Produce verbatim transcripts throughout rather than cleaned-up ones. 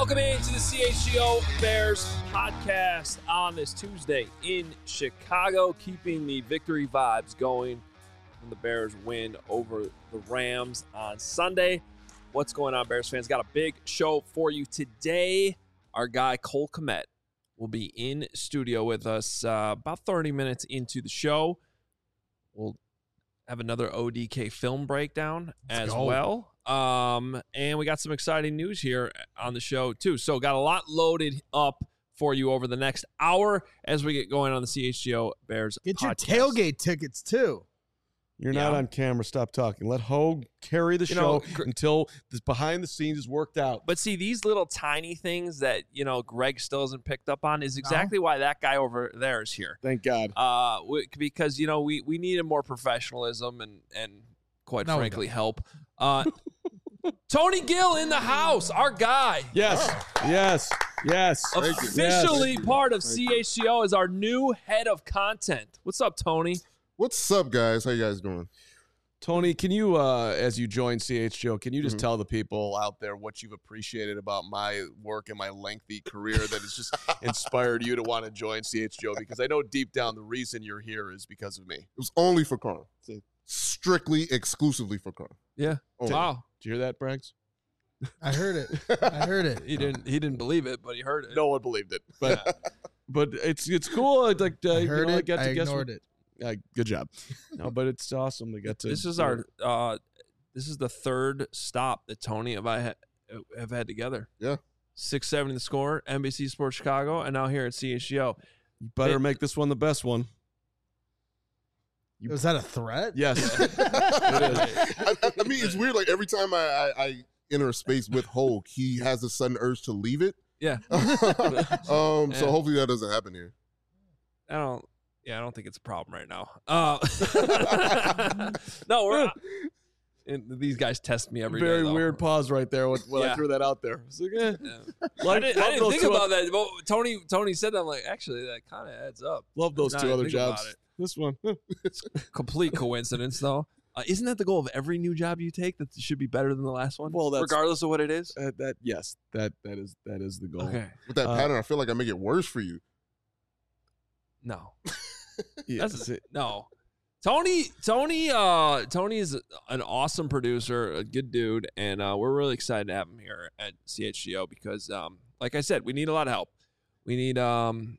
Welcome into the C H G O Bears podcast on this Tuesday in Chicago, keeping the victory vibes going when the Bears win over the Rams on Sunday. What's going on, Bears fans? Got a big show for you today. Our guy Cole Kmet will be in studio with us uh, about thirty minutes into the show. We'll have another O D K film breakdown Let's as go. well. Um, and we got some exciting news here on the show too. So got a lot loaded up for you over the next hour as we get going on the C H G O Bears Get your podcast. tailgate tickets too. You're Yeah. not on camera. Stop talking. Let Hogue carry the You show know, gr- until this behind the scenes is worked out. But see, these little tiny things that, you know, Greg still hasn't picked up on is exactly why that guy over there is here. Thank God. Uh, we, because, you know, we, we needed more professionalism and, and quite No, we frankly, help. Uh, Tony Gill in the house, our guy. Yes. Yes. Yes. Officially Yes. part of C H G O as our new head of content. What's up, Tony? What's up, guys? How you guys doing? Tony, can you, uh, as you join C H G O, can you just Mhm. tell the people out there what you've appreciated about my work and my lengthy career that has just inspired you to want to join C H G O? Because I know deep down the reason you're here is because of me. It was only for Carl. Strictly, exclusively for Carl. Yeah. Only. Wow. Did you hear that, Braggs? I heard it. I heard it. He didn't he didn't believe it, but he heard it. No one believed it, but but it's it's cool. I'd Like uh, I you heard know, I it. got to I guess ignored what- it. Uh, good job. No, but it's awesome. We got to. This is our uh this is the third stop that Tony and I ha- have had together. Yeah. six seven The Score, N B C Sports Chicago, and now here at C H G O. You better It- make this one the best one. Was that a threat? Yes. I, I, I mean, it's weird. Like every time I, I, I enter a space with Hulk, he has a sudden urge to leave it. Yeah. um. Yeah. So hopefully that doesn't happen here. I don't yeah, I don't think it's a problem right now. Uh No, we're and these guys test me every day. Very though. weird pause right there when, when Yeah. I threw that out there. I was like, eh. Yeah. I Like, didn't, I love didn't those think two about oth- that. But Tony Tony said that. I'm like, actually, that kind of adds up. Love those Now two I other think about jobs. it. This one. huh. Complete coincidence, though. Uh, isn't that the goal of every new job you take? That it should be better than the last one, Well, that's- regardless of what it is. Uh, that yes, that that is that is the goal. Okay, With that Uh, pattern, I feel like I make it worse for you. no, Yeah, That's- see, no. Tony, Tony, uh, Tony is an awesome producer, a good dude, and uh, we're really excited to have him here at C H G O because, um, like I said, we need a lot of help. We need, um,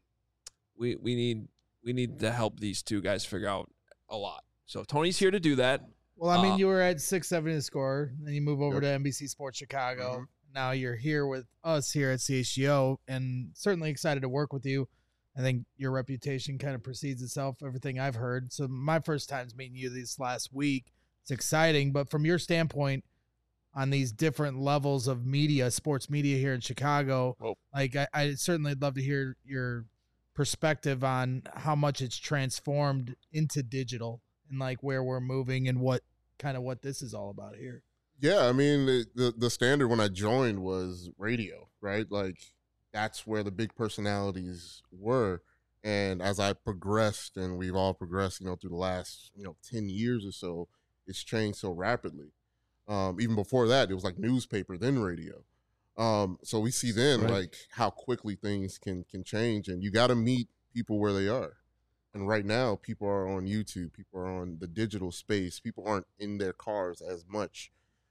we we need we need to help these two guys figure out a lot. So Tony's here to do that. Well, I mean, Uh, you were at six seven The Score, then you move over Yep. to N B C Sports Chicago. Mhm. Now you're here with us here at C H G O, and certainly excited to work with you. I think your reputation kind of precedes itself, everything I've heard. So my first time's meeting you this last week. It's exciting, but from your standpoint on these different levels of media, sports media here in Chicago, Whoa. like I, I certainly would love to hear your perspective on how much it's transformed into digital and like where we're moving and what kind of what this is all about here. Yeah, I mean, the, the the standard when I joined was radio, right? Like that's where the big personalities were. And as I progressed, and we've all progressed, you know, through the last, you know, ten years or so, it's changed so rapidly. Um, even before that, it was like newspaper, then radio. Um, so we see then Right. like how quickly things can can change, and you got to meet people where they are. And right now, people are on YouTube, people are on the digital space, people aren't in their cars as much.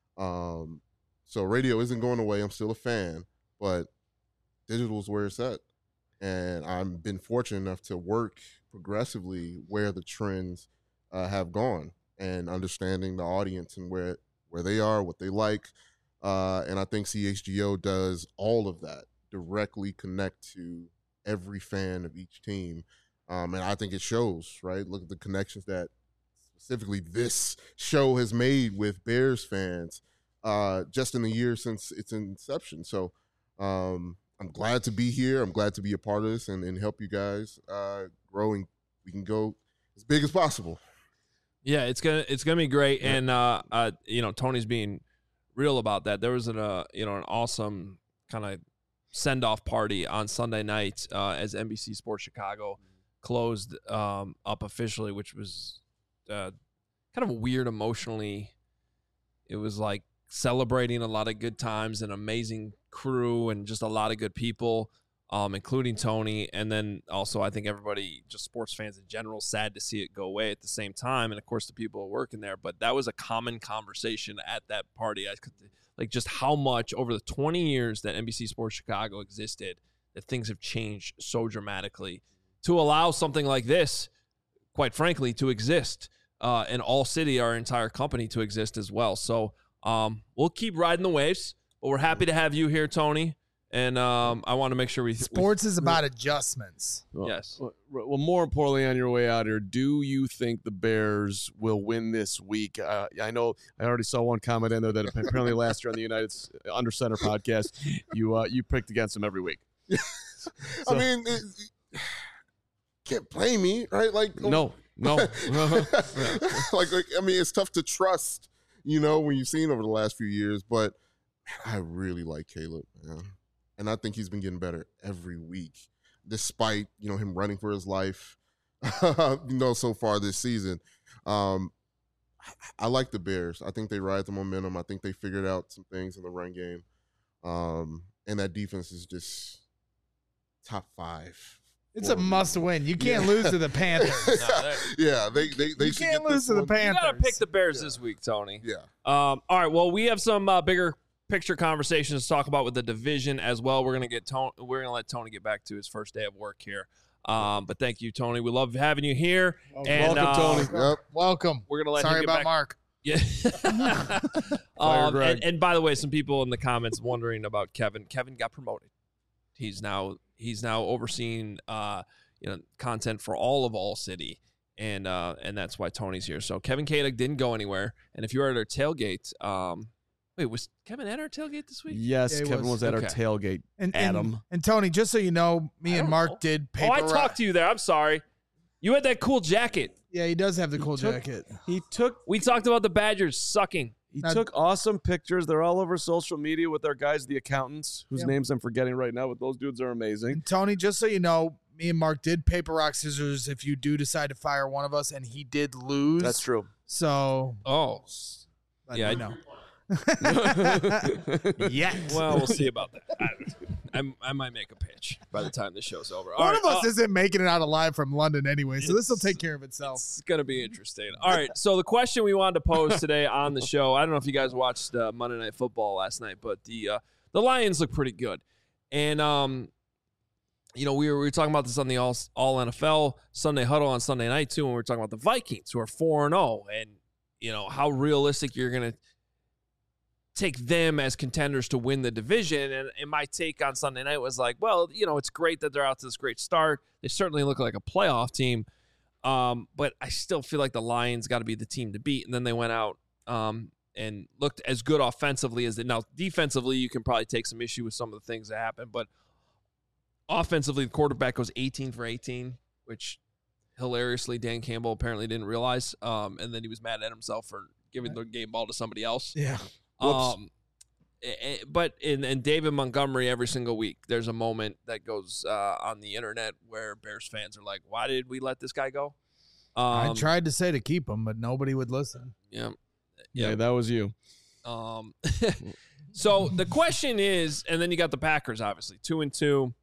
Um, so radio isn't going away. I'm still a fan, but digital is where it's at. And I've been fortunate enough to work progressively where the trends uh, have gone and understanding the audience and where where they are, what they like. Uh, and I think C H G O does all of that, directly connect to every fan of each team. Um, and I think it shows, right? Look at the connections that specifically this show has made with Bears fans uh, just in the year since its inception. So um, I'm glad to be here. I'm glad to be a part of this and, and help you guys uh, grow, and we can go as big as possible. Yeah, it's gonna it's gonna be great, Yeah. and uh, uh, you know, Tony's being real about that. There was an uh, you know, an awesome kind of send off party on Sunday night uh, as N B C Sports Chicago closed um, up officially, which was uh, kind of weird emotionally. It was like celebrating a lot of good times, an amazing crew, and just a lot of good people, um, including Tony. And then also I think everybody, just sports fans in general, sad to see it go away at the same time. And, of course, the people working there. But that was a common conversation at that party. I could, like just how much over the twenty years that N B C Sports Chicago existed, that things have changed so dramatically to allow something like this, quite frankly, to exist. Uh, and All City, our entire company, to exist as well. So um, we'll keep riding the waves, but we're happy to have you here, Tony. And um, I want to make sure we... Sports we, is about adjustments. Well, yes. Well, well, more importantly, on your way out here, do you think the Bears will win this week? Uh, I know I already saw one comment in there that apparently last year on the United Under Center podcast, you uh, you picked against them every week. So, I mean, it, can't blame me, right? Like no. No. like, like, I mean, it's tough to trust, you know, when you've seen over the last few years. But man, I really like Caleb, man. And I think he's been getting better every week, despite, you know, him running for his life, you know, so far this season. Um, I, I like the Bears. I think they ride the momentum. I think they figured out some things in the run game. Um, and that defense is just top five. It's a must win. You can't yeah. lose to the Panthers. no, yeah, they they they you can't lose to the Panthers. You got to pick the Bears yeah. this week, Tony. Yeah. Um. All right. Well, we have some uh, bigger picture conversations to talk about with the division as well. We're gonna get Tony. We're gonna let Tony get back to his first day of work here. Um. But thank you, Tony. We love having you here. Oh, and, welcome, uh, Tony. Yep. Welcome. We're gonna let Sorry him get about back. Mark. Yeah. um, and, and by the way, some people in the comments wondering about Kevin. Kevin got promoted. He's now he's now overseeing uh, you know, content for all of All City, and uh, and that's why Tony's here. So Kevin Kadick didn't go anywhere. And if you were at our tailgate, um, wait, was Kevin at our tailgate this week? Yes, yeah, Kevin was, was at okay. our tailgate. And, Adam and, and Tony, just so you know, me and Mark know. did paper. Oh, I talked to you there. I'm sorry. You had that cool jacket. Yeah, he does have the cool he took, jacket. He took. We talked about the Badgers sucking. He Now, took awesome pictures. They're all over social media with our guys, the accountants, whose yeah. names I'm forgetting right now, but those dudes are amazing. And Tony, just so you know, me and Mark did paper, rock, scissors if you do decide to fire one of us, and he did lose. That's true. So, oh, yeah, I know. yeah. Well, we'll see about that. I, I, I might make a pitch by the time the show's over. All One right, of us uh, isn't making it out alive from London anyway, so this will take care of itself. It's going to be interesting. All right, so the question we wanted to pose today on the show, I don't know if you guys watched uh, Monday Night Football last night, but the uh, the Lions look pretty good. And, um, you know, we were, we were talking about this on the All, All N F L Sunday Huddle on Sunday night, too, and we were talking about the Vikings, who are four and oh, and, you know, how realistic you're going to take them as contenders to win the division. And, and my take on Sunday night was like, well, you know, it's great that they're out to this great start. They certainly look like a playoff team. Um, but I still feel like the Lions got to be the team to beat. And then they went out um, and looked as good offensively as they. Now, defensively, you can probably take some issue with some of the things that happened. But offensively, the quarterback goes eighteen for eighteen, which hilariously Dan Campbell apparently didn't realize. Um, and then he was mad at himself for giving the game ball to somebody else. Yeah. Um, but in and David Montgomery, every single week, there's a moment that goes uh, on the internet where Bears fans are like, "Why did we let this guy go?" Um, I tried to say to keep him, but nobody would listen. Yeah, yeah, yeah, that was you. Um, so the question is, and then you got the Packers, obviously two and two.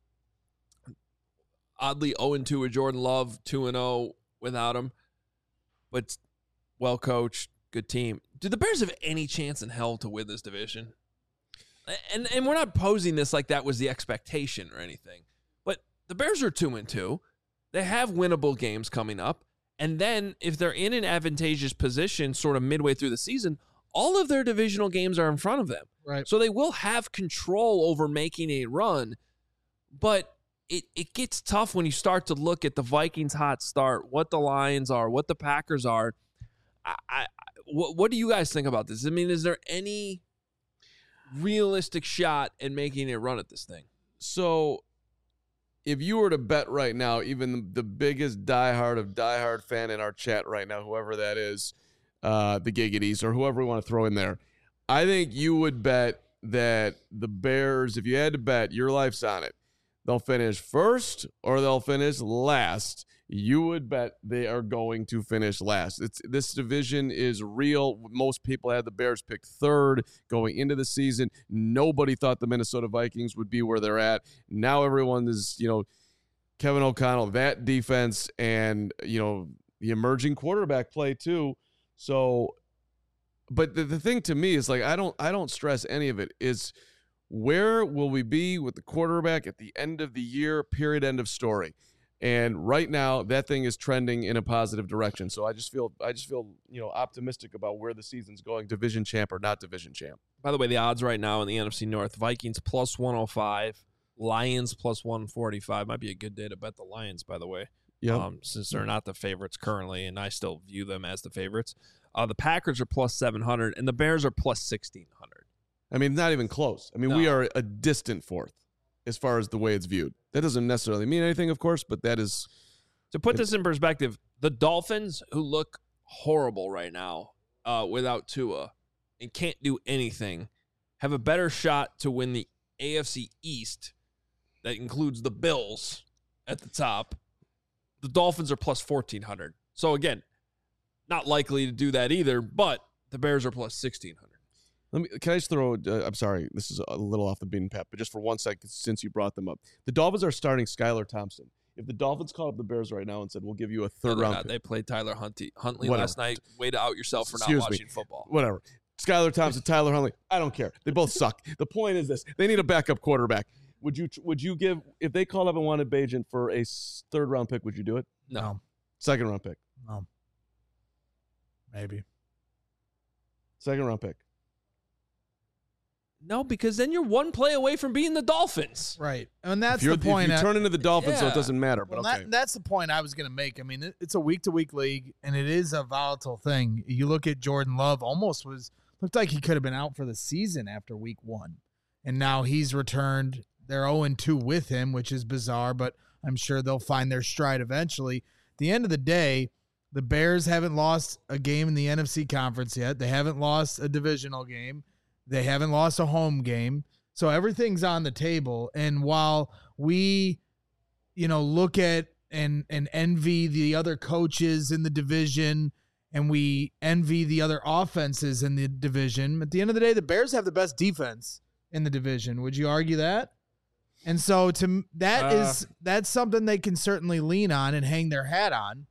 Oddly, zero and two with Jordan Love, two and zero without him, but well coached, good team. Do the Bears have any chance in hell to win this division? And and we're not posing this like that was the expectation or anything. But the Bears are two and two. They have winnable games coming up. And then if they're in an advantageous position sort of midway through the season, all of their divisional games are in front of them. Right. So they will have control over making a run. But it, it gets tough when you start to look at the Vikings' hot start, what the Lions are, what the Packers are. I, I What, what do you guys think about this? I mean, is there any realistic shot in making a run at this thing? So if you were to bet right now, even the biggest diehard of diehard fan in our chat right now, whoever that is, uh, the Giggities or whoever we want to throw in there, I think you would bet that the Bears, if you had to bet, your life's on it, they'll finish first or they'll finish last. You would bet they are going to finish last. It's this division is real. Most people had the Bears pick third going into the season. Nobody thought the Minnesota Vikings would be where they're at. Now everyone is, you know, Kevin O'Connell, that defense, and, you know, the emerging quarterback play too. So, but the, the thing to me is, like, I don't I don't stress any of it. Is where will we be with the quarterback at the end of the year, period, end of story. And right now, that thing is trending in a positive direction. So I just feel, I just feel, you know, optimistic about where the season's going. Division champ or not division champ. By the way, the odds right now in the N F C North: Vikings plus one oh five, Lions plus one forty-five. Might be a good day to bet the Lions, by the way. Yeah. Um, since they're not the favorites currently, and I still view them as the favorites. Uh, the Packers are plus seven hundred, and the Bears are plus sixteen hundred. I mean, not even close. I mean, No. we are a distant fourth as far as the way it's viewed. That doesn't necessarily mean anything, of course, but that is. To put this in perspective, the Dolphins, who look horrible right now uh, without Tua and can't do anything, have a better shot to win the A F C East. That includes the Bills at the top. The Dolphins are plus fourteen hundred. So, again, not likely to do that either, but the Bears are plus sixteen hundred. Let me. Can I just throw? Uh, I'm sorry, this is a little off the beaten path, but just for one second, since you brought them up, the Dolphins are starting Skylar Thompson. If the Dolphins called up the Bears right now and said, "We'll give you a third No, round," not. pick, They played Tyler Huntley, Huntley Whatever. last night. Way to out yourself for not Excuse me. watching football. whatever. Skylar Thompson, Tyler Huntley. I don't care. They both suck. The point is this: they need a backup quarterback. Would you? Would you give if they called up and wanted Bagent for a s- third round pick? Would you do it? No. Second round pick. No. Maybe. Second round pick. No, because then you're one play away from being the Dolphins. Right. And that's If, you're, the point. if you I- turn into the Dolphins, so Yeah. it doesn't matter. But Well, okay. that, that's the point I was going to make. I mean, it, it's a week to week league, and it is a volatile thing. You look at Jordan Love, almost was looked like he could have been out for the season after week one, and now he's returned. They're oh and two with him, which is bizarre, but I'm sure they'll find their stride eventually. At the end of the day, the Bears haven't lost a game in the N F C conference yet. They haven't lost a divisional game. They haven't lost a home game. So everything's on the table. And while we, you know, look at and and envy the other coaches in the division, and we envy the other offenses in the division, at the end of the day, the Bears have the best defense in the division. Would you argue that? And so to that Uh. is that's something they can certainly lean on and hang their hat on.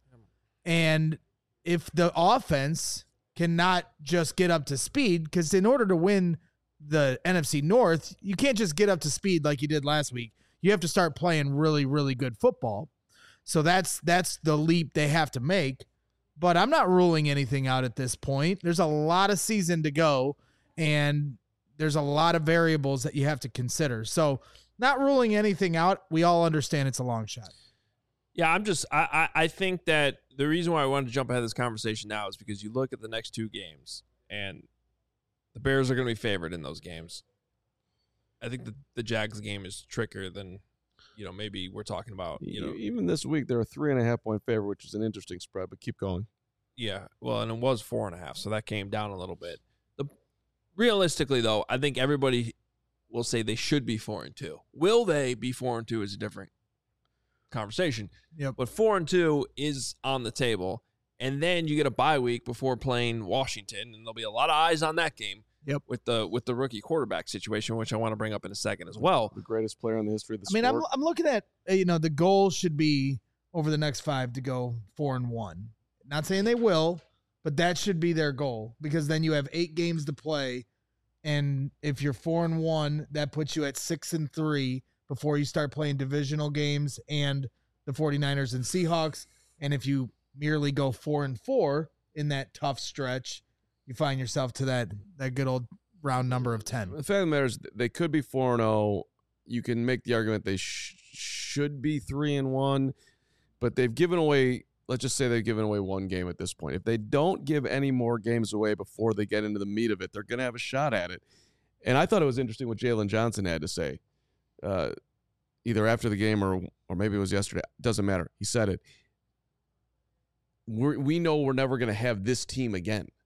And if the offense cannot just get up to speed, because in order to win the N F C North, you can't just get up to speed like you did last week. You have to start playing really, really good football. So that's that's the leap they have to make. But I'm not ruling anything out at this point. There's a lot of season to go, and there's a lot of variables that you have to consider. So not ruling anything out. We all understand it's a long shot. Yeah, I'm just I, I I think that the reason why I wanted to jump ahead of this conversation now is because you look at the next two games and the Bears are going to be favored in those games. I think the the Jags game is trickier than, you know, maybe we're talking about, you know. Even this week, they're a three and a half point favorite, which is an interesting spread. But keep going. Yeah, well, and it was four and a half, so that came down a little bit. The realistically, though, I think everybody will say they should be four and two. Will they be four and two is a different conversation. Yep. But four and two is on the table, and then you get a bye week before playing Washington, and there'll be a lot of eyes on that game. Yep. With the with the rookie quarterback situation, which I want to bring up in a second as well. The greatest player in the history of the I mean, sport. I'm I'm looking at uh, you know the goal should be over the next five to go four and one. Not saying they will, but that should be their goal, because then you have eight games to play, and if you're four and one, that puts you at six and three before you start playing divisional games and the 49ers and Seahawks. And if you merely go four and four in that tough stretch, you find yourself to that that good old round number of ten. The fact of the matter is, they could be four and zero. You can make the argument they sh- should be three and one, but they've given away. Let's just say they've given away one game at this point. If they don't give any more games away before they get into the meat of it, they're going to have a shot at it. And I thought it was interesting what Jalen Johnson had to say, uh, either after the game or or maybe it was yesterday. Doesn't matter. He said it. We're, we know we're never going to have this team again.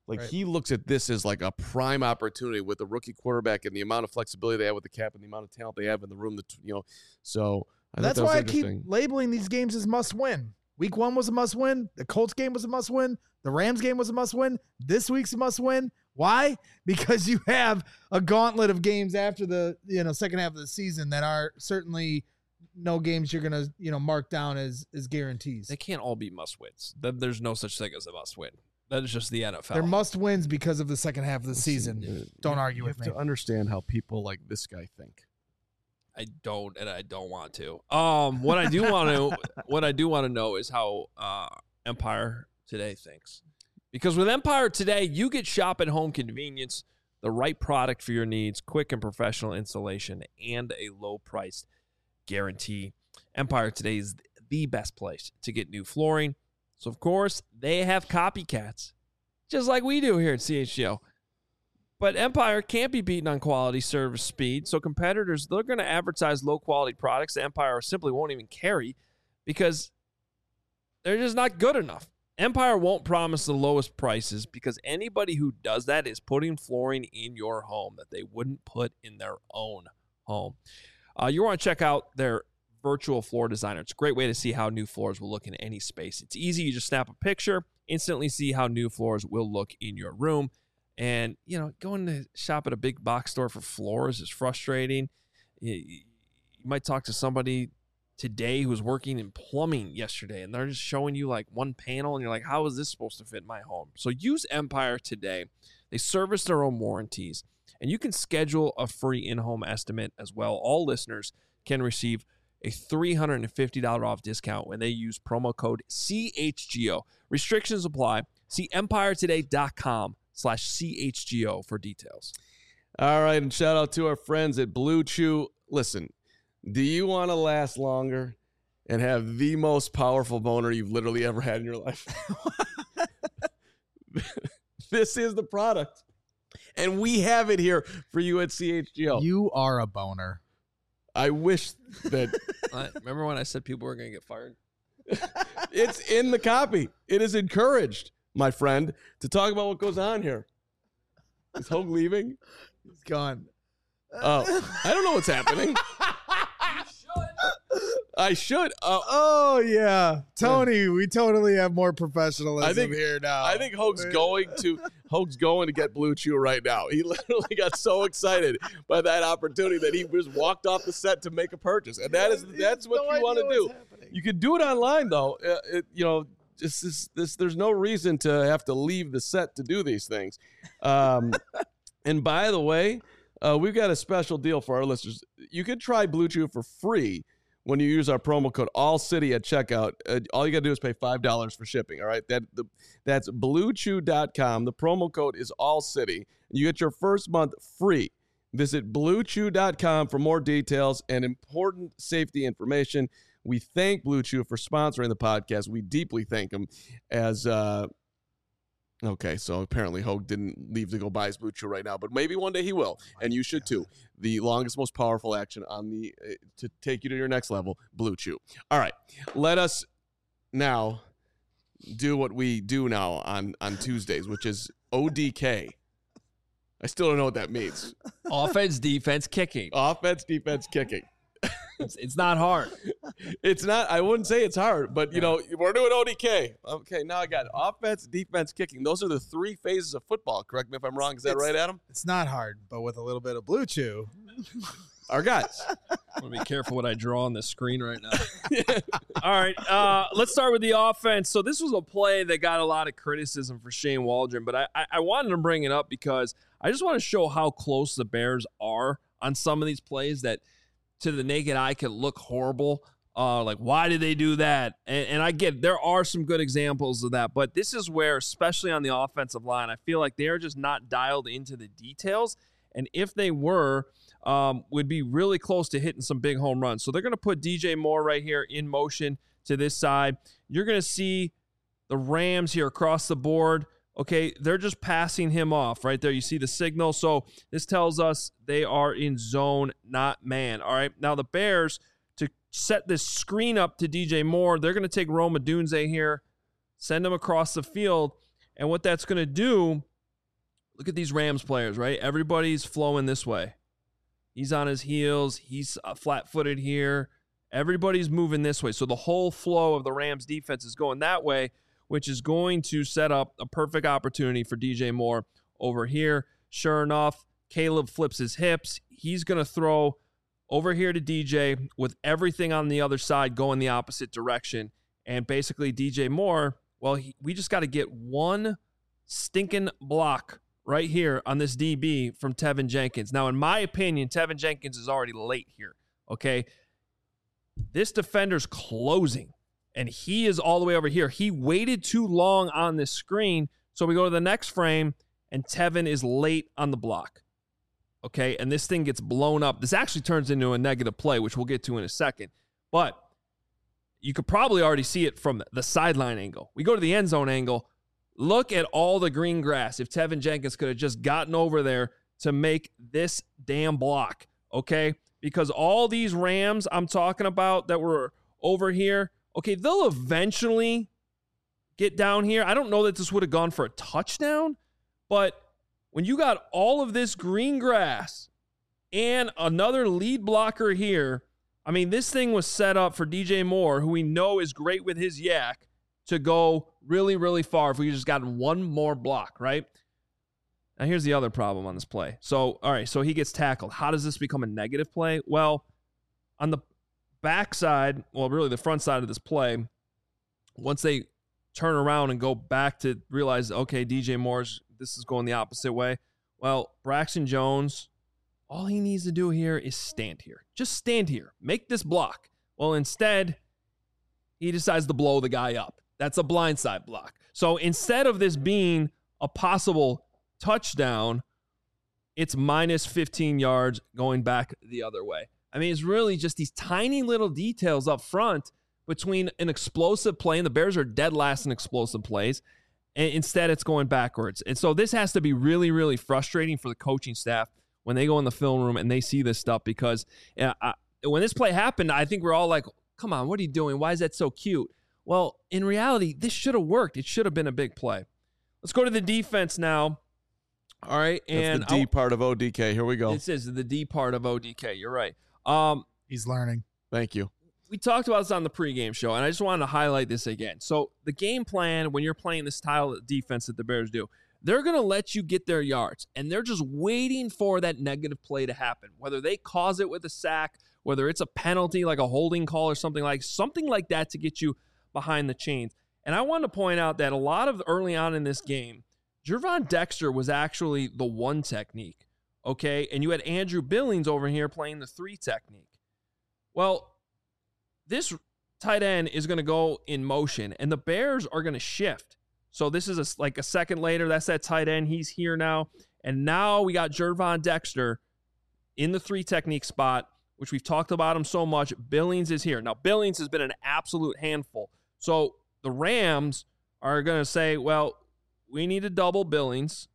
Like Right. he looks at this as like a prime opportunity with a rookie quarterback and the amount of flexibility they have with the cap and the amount of talent they have in the room. That you know, so I That's thought that was why I keep interesting. labeling these games as must win. Week one was a must win. The Colts game was a must win. The Rams game was a must win. This week's a must win. Why? Because you have a gauntlet of games after the you know second half of the season that are certainly no games you're gonna you know mark down as as guarantees. They can't all be must wins. There's no such thing as a must win. That is just the N F L. They're must wins because of the second half of the season. You- Don't argue you with have me. to understand how people like this guy think. I don't, and I don't want to. Um, what I do want to, what I do want to know is how uh, Empire Today thinks, because with Empire Today, you get shop at home convenience, the right product for your needs, quick and professional installation, and a low price guarantee. Empire Today is the best place to get new flooring. So of course they have copycats, just like we do here at C H G O. But Empire can't be beaten on quality, service, speed. So competitors, they're going to advertise low-quality products that Empire simply won't even carry because they're just not good enough. Empire won't promise the lowest prices because anybody who does that is putting flooring in your home that they wouldn't put in their own home. Uh, you want to check out their virtual floor designer. It's a great way to see how new floors will look in any space. It's easy. You just snap a picture, instantly see how new floors will look in your room. And, you know, going to shop at a big box store for floors is frustrating. You, you might talk to somebody today who was working in plumbing yesterday, and they're just showing you like one panel, and you're like, how is this supposed to fit in my home? So use Empire Today. They service their own warranties, and you can schedule a free in-home estimate as well. All listeners can receive a three hundred fifty dollars off discount when they use promo code C H G O. Restrictions apply. See empire today dot com slash C H G O for details. All right, and shout out to our friends at Blue Chew. Listen, do you want to last longer and have the most powerful boner you've literally ever had in your life? This is the product. And we have it here for you at C H G O. You are a boner. I wish that Uh, remember when I said people were going to get fired? it's in the copy. It is encouraged, my friend, to talk about what goes on here. Is Hogue leaving? He's gone. Oh, I don't know what's happening. I should. Uh, Oh yeah, Tony. We totally have more professionalism I think- here now. I think Hogue's going to Hogue's going to get Blue Chew right now. He literally got so excited by that opportunity that he just walked off the set to make a purchase, and that is He that's has what no you want to idea do. what's happening. You can do it online though. Uh, it, you know, just this, this. There's no reason to have to leave the set to do these things. Um, and by the way, uh, we've got a special deal for our listeners. You can try Blue Chew for free when you use our promo code ALLCITY at checkout. Uh, all you got to do is pay five dollars for shipping, all right? That the, That's blue chew dot com. The promo code is ALLCITY. You get your first month free. Visit blue chew dot com for more details and important safety information. We thank Blue Chew for sponsoring the podcast. We deeply thank them as uh, – okay, so apparently Hogue didn't leave to go buy his Blue Chew right now, but maybe one day he will, and you should too. The longest, most powerful action on the uh, to take you to your next level, Blue Chew. All right, let us now do what we do now on, on Tuesdays, which is O D K. I still don't know what that means. Offense, defense, kicking. Offense, defense, kicking. It's, it's not hard. It's not, I wouldn't say it's hard, but, you know, we're doing O D K. Okay, now I got it. Offense, defense, kicking. Those are the three phases of football. Correct me if I'm wrong. Is that It's- right, Adam? It's not hard, but with a little bit of Blue Chew. Our guys. I'm going to be careful what I draw on this screen right now. All right, uh, let's start with the offense. So this was a play that got a lot of criticism for Shane Waldron, but I, I, I wanted to bring it up because I just want to show how close the Bears are on some of these plays that to the naked eye can look horrible. Uh, like, why did they do that? And, and I get there are some good examples of that, but this is where, especially on the offensive line, I feel like they're just not dialed into the details. And if they were, um, would be really close to hitting some big home runs. So they're going to put D J Moore right here in motion to this side. You're going to see the Rams here across the board. Okay, they're just passing him off right there. You see the signal. So this tells us they are in zone, not man. All right, now the Bears, to set this screen up to D J Moore, they're going to take Rome Odunze here, send him across the field. And what that's going to do look at these Rams players, right? Everybody's flowing this way. He's on his heels. He's uh, flat-footed here. Everybody's moving this way. So the whole flow of the Rams defense is going that way, which is going to set up a perfect opportunity for D J Moore over here. Sure enough, Caleb flips his hips. He's going to throw over here to D J with everything on the other side going the opposite direction. And basically D J Moore, well, he, we just got to get one stinking block right here on this D B from Tevin Jenkins. Now, in my opinion, Tevin Jenkins is already late here, okay? This defender's closing, and he is all the way over here. He waited too long on this screen, so we go to the next frame, and Tevin is late on the block, okay? And this thing gets blown up. This actually turns into a negative play, which we'll get to in a second. But you could probably already see it from the sideline angle. We go to the end zone angle. Look at all the green grass. If Tevin Jenkins could have just gotten over there to make this damn block, okay? Because all these Rams I'm talking about that were over here, okay, they'll eventually get down here. I don't know that this would have gone for a touchdown, but when you got all of this green grass and another lead blocker here, I mean, this thing was set up for D J Moore, who we know is great with his yak, to go really, really far if we just got one more block, right? Now, here's the other problem on this play. So, all right, so he gets tackled. How does this become a negative play? Well, on the backside, well, really the front side of this play, once they turn around and go back to realize, okay, D J Moore's, this is going the opposite way. Well, Braxton Jones, all he needs to do here is stand here. Just stand here. Make this block. Well, instead, he decides to blow the guy up. That's a blindside block. So instead of this being a possible touchdown, it's minus fifteen yards going back the other way. I mean, it's really just these tiny little details up front between an explosive play, and the Bears are dead last in explosive plays, and instead it's going backwards. And so this has to be really, really frustrating for the coaching staff when they go in the film room and they see this stuff, because uh, I, when this play happened, I think we're all like, come on, what are you doing? Why is that so cute? Well, in reality, this should have worked. It should have been a big play. Let's go to the defense now. All right, and that's the D I'll, part of O D K. Here we go. This is the D part of O D K. You're right. Um, He's learning. Thank you. We talked about this on the pregame show, and I just wanted to highlight this again. So the game plan, when you're playing this style of defense that the Bears do, they're going to let you get their yards, and they're just waiting for that negative play to happen, whether they cause it with a sack, whether it's a penalty like a holding call or something like something like that to get you behind the chains. And I want to point out that a lot of early on in this game, Gervon Dexter was actually the one technique, okay? And you had Andrew Billings over here playing the three technique. Well, this tight end is going to go in motion, and the Bears are going to shift. So this is a, like a second later. That's that tight end. He's here now. And now we got Gervon Dexter in the three technique spot, which we've talked about him so much. Billings is here. Now, Billings has been an absolute handful. So the Rams are going to say, well, we need to double Billings.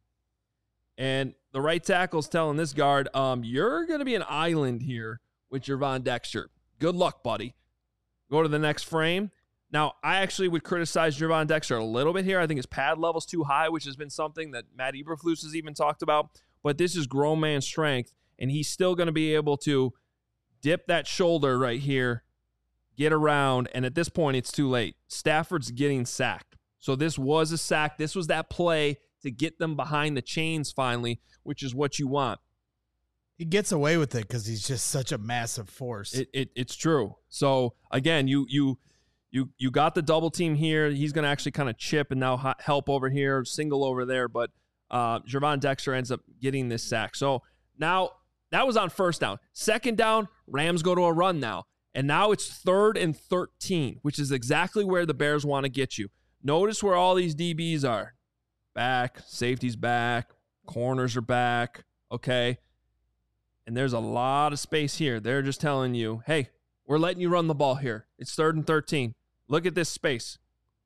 And the right tackle's telling this guard, um, you're going to be an island here with Gervon Dexter. Good luck, buddy. Go to the next frame. Now, I actually would criticize Gervon Dexter a little bit here. I think his pad level's too high, which has been something that Matt Eberflus has even talked about. But this is grown man strength, and he's still going to be able to dip that shoulder right here, get around, and at this point, it's too late. Stafford's getting sacked. So this was a sack. This was that play to get them behind the chains finally, which is what you want. He gets away with it because he's just such a massive force. It, it it's true. So again, you you you you got the double team here. He's going to actually kind of chip and now help over here, single over there. But uh, Gervon Dexter ends up getting this sack. So now that was on first down. Second down, Rams go to a run now. And now it's third and thirteen, which is exactly where the Bears want to get you. Notice where all these D Bs are. Back, safety's back, corners are back, okay? And there's a lot of space here. They're just telling you, hey, we're letting you run the ball here. It's third and thirteen. Look at this space.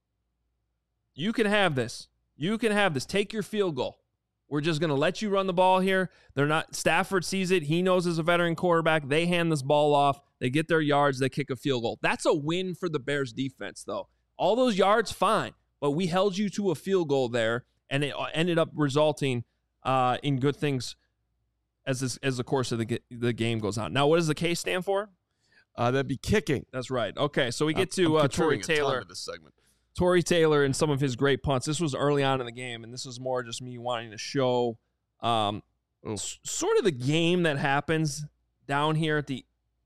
You can have this. You can have this. Take your field goal. We're just going to let you run the ball here. They're not. Stafford sees it. He knows as a veteran quarterback. They hand this ball off. They get their yards. They kick a field goal. That's a win for the Bears defense, though. All those yards, fine. But we held you to a field goal there, and it ended up resulting uh, in good things as this, as the course of the the game goes on. Now, what does the K stand for? Uh, that'd be kicking. That's right. Okay, so we get I'm, to I'm uh, Tory contributing a ton Taylor. to this segment. Tory Taylor and some of his great punts. This was early on in the game, and this was more just me wanting to show um, s- sort of the game that happens down here at the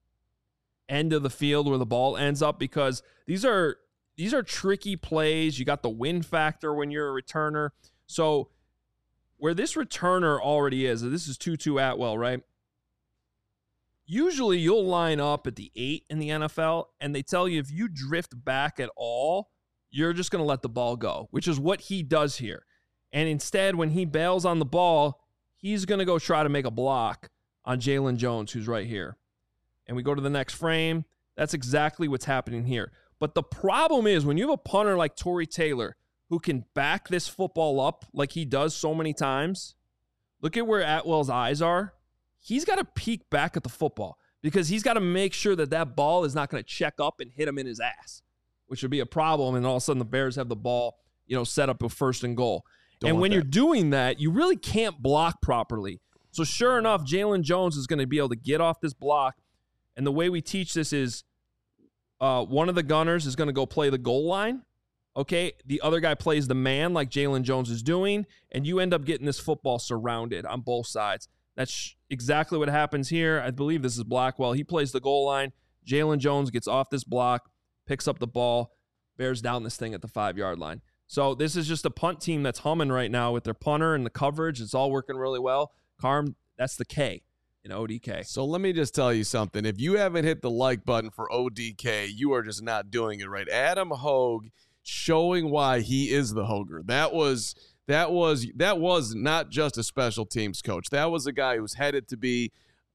end of the field where the ball ends up, because these are these are tricky plays. You got the win factor when you're a returner. So where this returner already is, this is Tutu Atwell, right? Usually you'll line up at the eight in the N F L, and they tell you if you drift back at all, you're just going to let the ball go, which is what he does here. And instead, when he bails on the ball, he's going to go try to make a block on Jalen Jones, who's right here. And we go to the next frame. That's exactly what's happening here. But the problem is when you have a punter like Tory Taylor who can back this football up like he does so many times, look at where Atwell's eyes are. He's got to peek back at the football because he's got to make sure that that ball is not going to check up and hit him in his ass, which would be a problem. And all of a sudden the Bears have the ball, you know, set up with first and goal. Don't and when that. You're doing that, you really can't block properly. So sure enough, Jalen Jones is going to be able to get off this block. And the way we teach this is uh, one of the gunners is going to go play the goal line. Okay. The other guy plays the man like Jalen Jones is doing. And you end up getting this football surrounded on both sides. That's exactly what happens here. I believe this is Blackwell. He plays the goal line. Jalen Jones gets off this block, picks up the ball, bears down this thing at the five-yard line. So this is just a punt team that's humming right now with their punter and the coverage. It's all working really well. Carm, that's the K in O D K. So let me just tell you something. If you haven't hit the like button for O D K, you are just not doing it right. Adam Hogue showing why he is the Hoger. That was that was that was not just a special teams coach. That was a guy who's headed to be,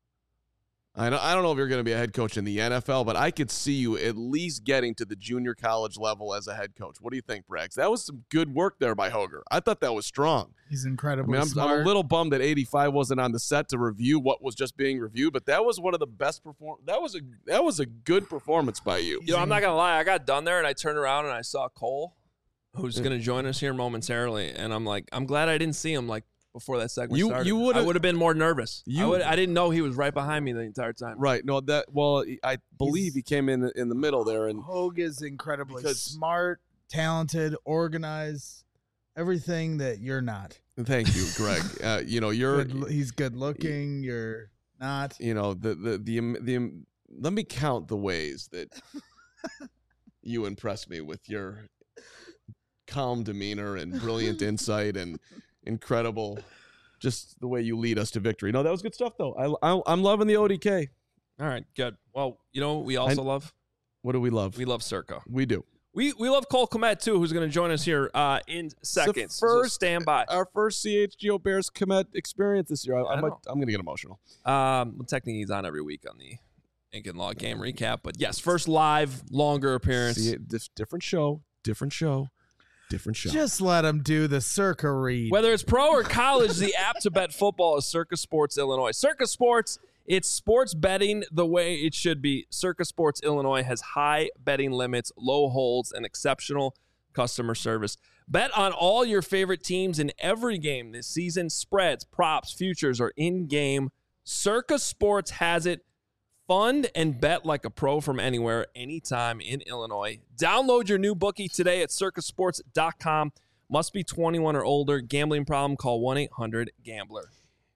I don't, I don't know if you're going to be a head coach in the N F L, but I could see you at least getting to the junior college level as a head coach. What do you think, Braggs? That was some good work there by Hoger. I thought that was strong. He's incredibly I mean, I'm, smart. I'm a little bummed that eighty-five wasn't on the set to review what was just being reviewed, but that was one of the best perform. That was a that was a good performance by you. You know, I'm not going to lie. I got done there, and I turned around, and I saw Cole, who's going to join us here momentarily, and I'm like, I'm glad I didn't see him, like, before that segment You- started. you would've- I would have been more nervous. You- I, would, I didn't know he was right behind me the entire time. Right. No, that well, I believe he came in in the middle there, and Hogue is incredibly Because- smart, talented, organized, everything that you're not. thank you, Greg. Uh, you know, you're Good, he's good looking. You're not. you know the the the the, the let me count the ways that you impress me with your calm demeanor and brilliant insight and incredible just the way you lead us to victory. No, that was good stuff though. I, I I'm loving the O D K. All right, good. Well, you know what we also I- love? What do we love? We love Circa. We do. We we love Cole Kmet, too, who's going to join us here uh, in seconds. So first- stand by. Our first C H G O Bears commit experience this year. I, I I might, know. I'm going to get emotional. Um, well, technically, he's on every week on the Ink and Law game recap. But yes, first live, longer appearance. See, dif- different show, different show, different show. Just let him do the Circa read. Whether it's pro or college, the app to bet football is Circa Sports Illinois. Circa Sports, it's sports betting the way it should be. Circa Sports Illinois has high betting limits, low holds, and exceptional customer service. Bet on all your favorite teams in every game this season. Spreads, props, futures, or in-game. Circa Sports has it. Fund and bet like a pro from anywhere, anytime in Illinois. Download your new bookie today at circa sports dot com. Must be twenty-one or older. Gambling problem? Call one eight hundred gambler.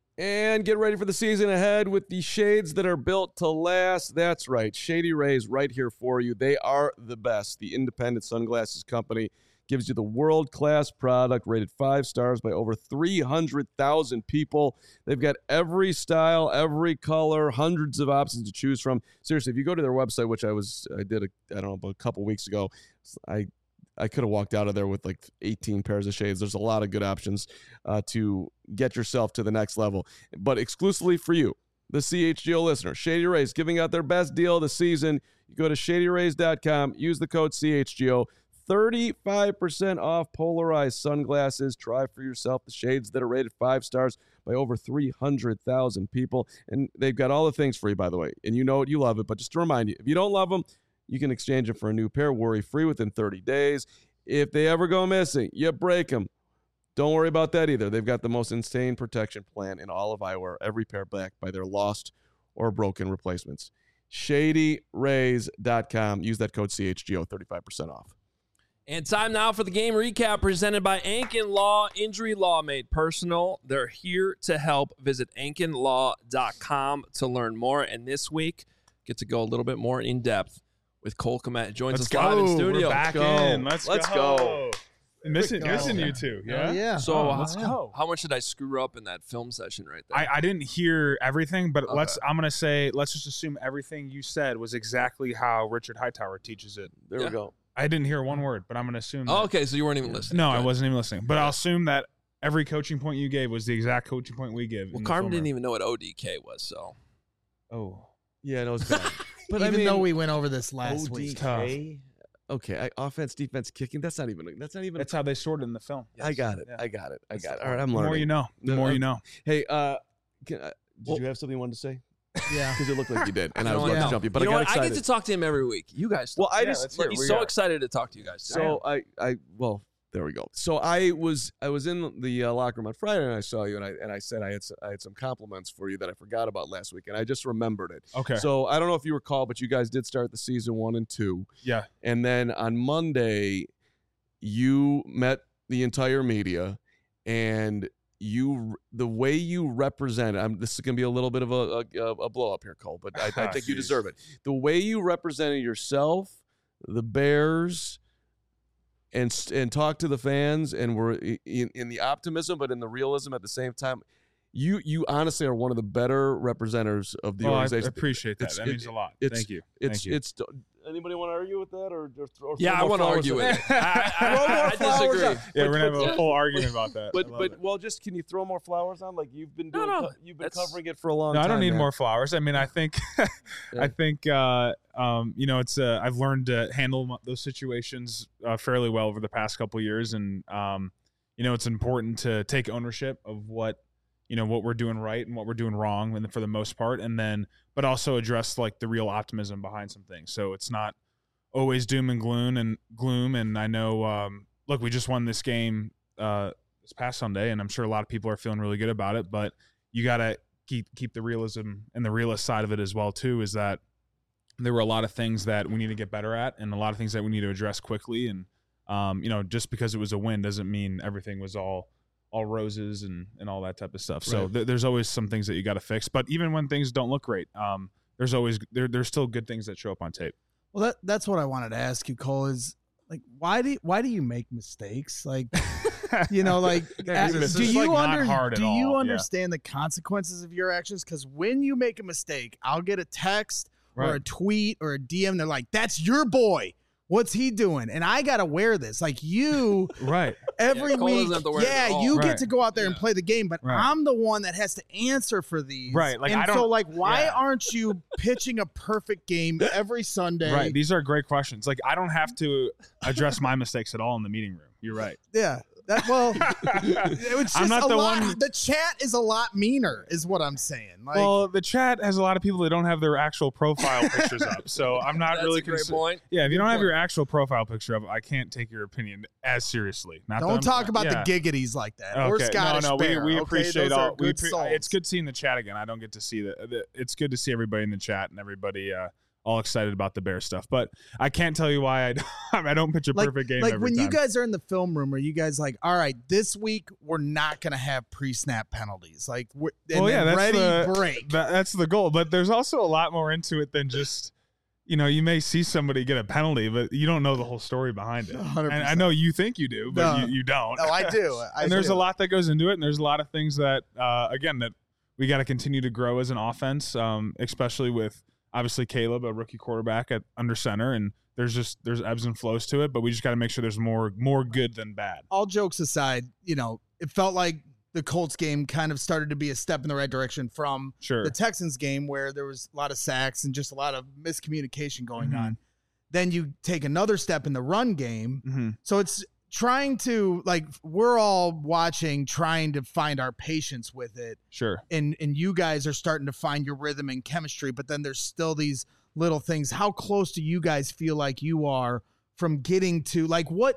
And get ready for the season ahead with the shades that are built to last. That's right. Shady Rays right here for you. They are the best. The independent sunglasses company gives you the world-class product rated five stars by over three hundred thousand people. They've got every style, every color, hundreds of options to choose from. Seriously, if you go to their website, which I was, I did, a, I don't know, a couple weeks ago, I I could have walked out of there with like eighteen pairs of shades. There's a lot of good options uh, to get yourself to the next level. But exclusively for you, the C H G O listener, Shady Rays giving out their best deal of the season. You go to shady rays dot com, use the code C H G O, thirty-five percent off polarized sunglasses. Try for yourself the shades that are rated five stars by over three hundred thousand people. And they've got all the things for you, by the way. And you know it, you love it. But just to remind you, if you don't love them, you can exchange them for a new pair worry-free within thirty days. If they ever go missing, you break them. Don't worry about that either. They've got the most insane protection plan in all of eyewear, every pair backed by their lost or broken replacements. Shady Rays dot com. Use that code C H G O, thirty-five percent off. And time now for the game recap presented by Ankin Law. Injury law made personal. They're here to help. Visit Ankin Law dot com to learn more. And this week, get to go a little bit more in depth with Cole Kmet. Joins Let's us live go. in studio. We're back Let's go. in. Let's, Let's go. go. Missing, go. missing you two. Yeah. Oh, yeah. So Oh, how, let's go. how much did I screw up in that film session right there? I, I didn't hear everything, but Okay. let's. I'm gonna say let's just assume everything you said was exactly how Richard Hightower teaches it. There Yeah. we go. I didn't hear one word, but I'm gonna assume. oh, that- okay, so you weren't even listening. No, Good. I wasn't even listening. But Yeah. I'll assume that every coaching point you gave was the exact coaching point we give. Well, in the Carm film didn't room. even know what O D K was, so. Oh, Yeah, no, it's bad. But Even I mean, though we went over this last O D K, week. tough. Okay, I, offense, defense, kicking. That's not even. That's not even. that's how they sorted in the film. I got it. Yeah. I got it. I That's got it. the All right, point. I'm The learning. more you know, the No, more uh, you know. Hey, uh, can, uh, did Well- you have something you wanted to say? Yeah. Because it looked like you did, and I You was know about what? to jump you, but you know I got what? excited. I get to talk to him every week. You guys. well, I Yeah, just let's hear it. he's Where so you at? excited to talk to you guys. today. so I I well there we go. So I was I was in the uh, locker room on Friday and I saw you and I and I said I had s- I had some compliments for you that I forgot about last week and I just remembered it. Okay. So I don't know if you recall, but you guys did start the season one and two, yeah. and then on Monday you met the entire media and you the way you represent I'm, this is going to be a little bit of a, a, a blow up here, Cole, but I, I think you Jeez. deserve it. The way you represented yourself, the Bears, and s- and talk to the fans, and were i- in, in the optimism, but in the realism at the same time. You you honestly are one of the better representatives of the Well, I organization. appreciate that. It's- that it- means a lot. it's- Thank you. It's Thank you. it's. Anybody want to argue with that, or, or, or yeah, I throw more want to flowers argue at with it. I, I, Throw more I, I flowers disagree. on- yeah, but- we're gonna but- have a full argument about that. But I love but it. well, just can you throw more flowers on? Like you've been No, doing, no, co- you've been that's- covering it for a long no, time. I don't need man. more flowers. I mean, I think, Yeah. I think, uh, um, you know, it's uh, I've learned to handle mo- those situations uh, fairly well over the past couple of years, and um, you know, it's important to take ownership of what you know what we're doing right and what we're doing wrong, and for the most part, and then but also address like the real optimism behind some things. So it's not always doom and gloom and gloom. And I know, um, look, we just won this game uh, this past Sunday, and I'm sure a lot of people are feeling really good about it. But you got to keep keep the realism and the realist side of it as well too. Is that there were a lot of things that we need to get better at, and a lot of things that we need to address quickly. And um, you know, just because it was a win doesn't mean everything was all all roses and and all that type of stuff. So Right. th- there's always some things that you got to fix. But even when things don't look great, um, there's always there there's still good things that show up on tape. Well, that that's what I wanted to ask you, Cole. Is like, why do you, why do you make mistakes? Like, you know, like, Yeah, uh, this do is, you like, not under hard at do you all. Yeah. understand the consequences of your actions? Because when you make a mistake, I'll get a text or a tweet or a D M. They're like, "That's your boy. What's he doing?" And I gotta wear this. Like you, Right. every Yeah, Cole doesn't week. have to wear it Yeah, at all. you Right. get to go out there and Yeah. play the game, but Right. I'm the one that has to answer for these. Right, like, and I so, don't- like, why yeah. aren't you pitching a perfect game every Sunday? Right. These are great questions. Like I don't have to address my mistakes at all in the meeting room. You're right. Yeah. That well, it's just I'm not a the lot. one. The chat is a lot meaner, is what I'm saying. Like, Well, the chat has a lot of people that don't have their actual profile pictures up, so I'm not That's really a great consi- point. Yeah, if you Good don't have point. your actual profile picture up, I can't take your opinion as seriously. Not that don't I'm- talk about yeah. the giggities like that. Or Okay. Scottish no, no, Bear, we, we okay? appreciate Those are all. We good appre- souls. it's good seeing the chat again. I don't get to see the. the it's good to see everybody in the chat and everybody uh, all excited about the Bear stuff. But I can't tell you why I don't, I don't pitch a Like- perfect game Like every when time. you guys are in the film room, are you guys like, all right, this week we're not going to have pre-snap penalties? Like, we're, and Well, yeah, then that's ready, the- break. That, that's the goal. But there's also a lot more into it than just, you know, you may see somebody get a penalty, but you don't know the whole story behind it. one hundred And percent. I know you think you do, but No. you, you don't. No, I do. I and there's do. a lot that goes into it, and there's a lot of things that, uh, again, that we got to continue to grow as an offense, um, especially with obviously Caleb, a rookie quarterback at under center, and there's just there's ebbs and flows to it, but we just got to make sure there's more more good than bad. All jokes aside, you know, it felt like the Colts game kind of started to be a step in the right direction from Sure. the Texans game where there was a lot of sacks and just a lot of miscommunication going Mhm. on. Then you take another step in the run game. Mm-hmm. So it's trying to, like, we're all watching, trying to find our patience with it. Sure. And and you guys are starting to find your rhythm and chemistry, but then there's still these little things. How close do you guys feel like you are from getting to, like, what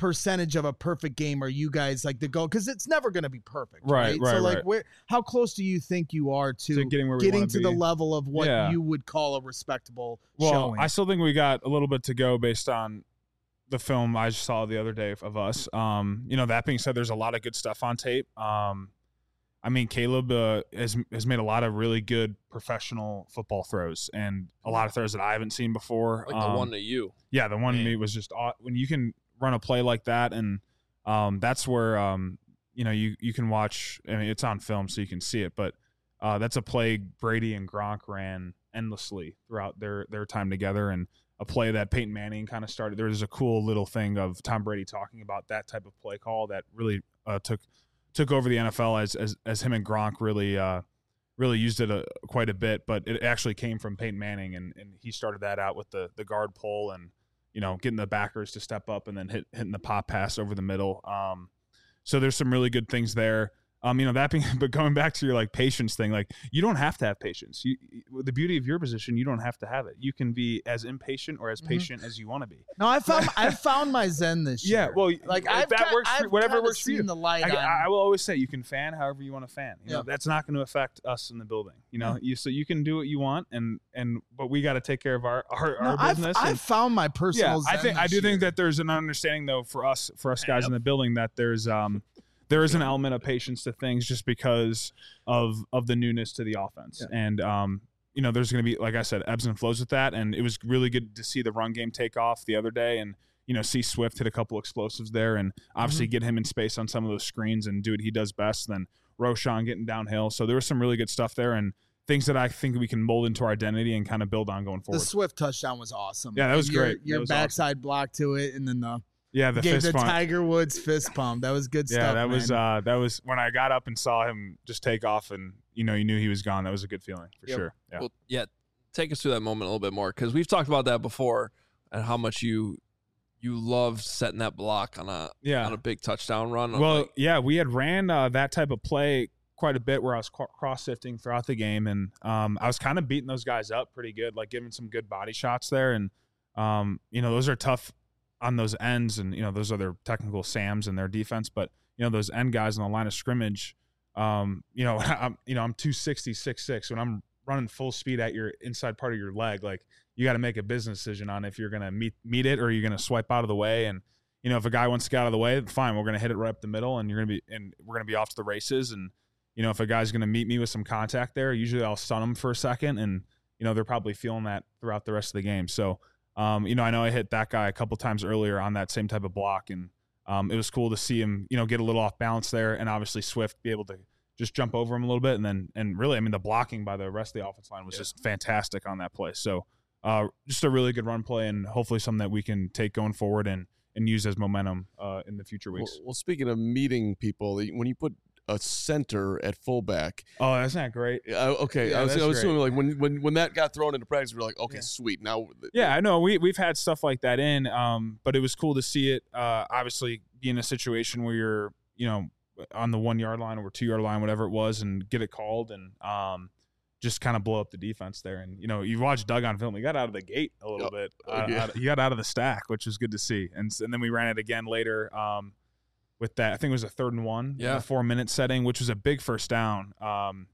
percentage of a perfect game are you guys like the goal? Because it's never going to be perfect, right? Right, right, so like, right. where how close do you think you are to, To getting where we getting wanna to the be. level of what Yeah. you would call a respectable Well, showing? I still think we got a little bit to go based on the film I just saw the other day of us. Um, you know, that being said, there's a lot of good stuff on tape. Um, I mean, Caleb uh, has has made a lot of really good professional football throws and a lot of throws that I haven't seen before. Like the Um, one to you. Yeah, the one to Man. me was just aw- when you can run a play like that, and um, that's where um, you know you you can watch. I mean, it's on film, so you can see it. But uh, that's a play Brady and Gronk ran endlessly throughout their their time together, and a play that Peyton Manning kind of started. There was a cool little thing of Tom Brady talking about that type of play call that really uh, took took over the N F L as as as him and Gronk really. Uh, really used it a, quite a bit, but it actually came from Peyton Manning, and, and he started that out with the the guard pull and, you know, getting the backers to step up and then hit, hitting the pop pass over the middle. Um, so there's some really good things there. Um, you know, that being, but going back to your like patience thing, like you don't have to have patience. You, the beauty of your position, you don't have to have it. You can be as impatient or as Mhm. patient as you want to be. no, I found I found my zen this Yeah, year. well, like if I've that got- works for I've whatever kinda works for you. seen the light I, on. I will always say you can fan however you want to fan. You know, Yeah. that's not going to affect us in the building. You know, you so you can do what you want, and and but we got to take care of our our, No, our I've, business. I've and, found my yeah, personal I zen think I this do think year. that there's an understanding though for us for us guys in the building that there's um there is an element of patience to things just because of of the newness to the offense, and um you know there's going to be, like I said, ebbs and flows with that, and it was really good to see the run game take off the other day, and you know see Swift hit a couple explosives there, and obviously get him in space on some of those screens and do what he does best. Then Roshan getting downhill, so there was some really good stuff there, and things that I think we can mold into our identity and kind of build on going the forward. Swift touchdown was awesome. Yeah, that was And your, great. That Your was backside block to it, and then the Yeah, the gave fist the pump. Tiger Woods fist pump. That was good Yeah, stuff. that was man. uh that was when I got up and saw him just take off, and you know you knew he was gone. That was a good feeling for Yep. sure. Yeah. Well, yeah. Take us through that moment a little bit more, because we've talked about that before and how much you you love setting that block on a Yeah. on a big touchdown run. Well, Like, yeah, we had ran uh, that type of play quite a bit where I was cro- cross sifting throughout the game, and um, I was kind of beating those guys up pretty good, like giving some good body shots there, and um, you know those are tough on those ends, and you know those are their technical Sams and their defense, but you know those end guys on the line of scrimmage, um, you know I'm you know I'm two sixty, six six. When I'm running full speed at your inside part of your leg, like you got to make a business decision on if you're gonna meet meet it or you're gonna swipe out of the way. And you know if a guy wants to get out of the way, fine, we're gonna hit it right up the middle, and you're gonna be and we're gonna be off to the races. And you know if a guy's gonna meet me with some contact there, usually I'll stun him for a second, and you know they're probably feeling that throughout the rest of the game. So um, you know I know I hit that guy a couple times earlier on that same type of block, and um, it was cool to see him you know get a little off balance there, and obviously Swift be able to just jump over him a little bit, and then and really I mean the blocking by the rest of the offense line was Yeah. just fantastic on that play. So uh, just a really good run play, and hopefully something that we can take going forward and and use as momentum uh, in the future Well, weeks. well, speaking of meeting people, when you put a center at fullback, Oh, that's not great. uh, okay, Yeah, I was, that's I was great. assuming like when, when when that got thrown into practice, we are like, okay, Yeah. sweet. Now, Yeah, I know we we've had stuff like that in, um, but it was cool to see it. Uh, obviously, be in a situation where you're, you know, on the one yard line or two yard line, whatever it was, and get it called, and um, just kind of blow up the defense there. And you know, you watched Doug on film; he got out of the gate a little Oh, bit. oh, Uh, yeah. out- he got out of the stack, which was good to see. And s- and then we ran it again later um, with that. I think it was a third and one, in Yeah. a four minute setting, which was a big first down. Um,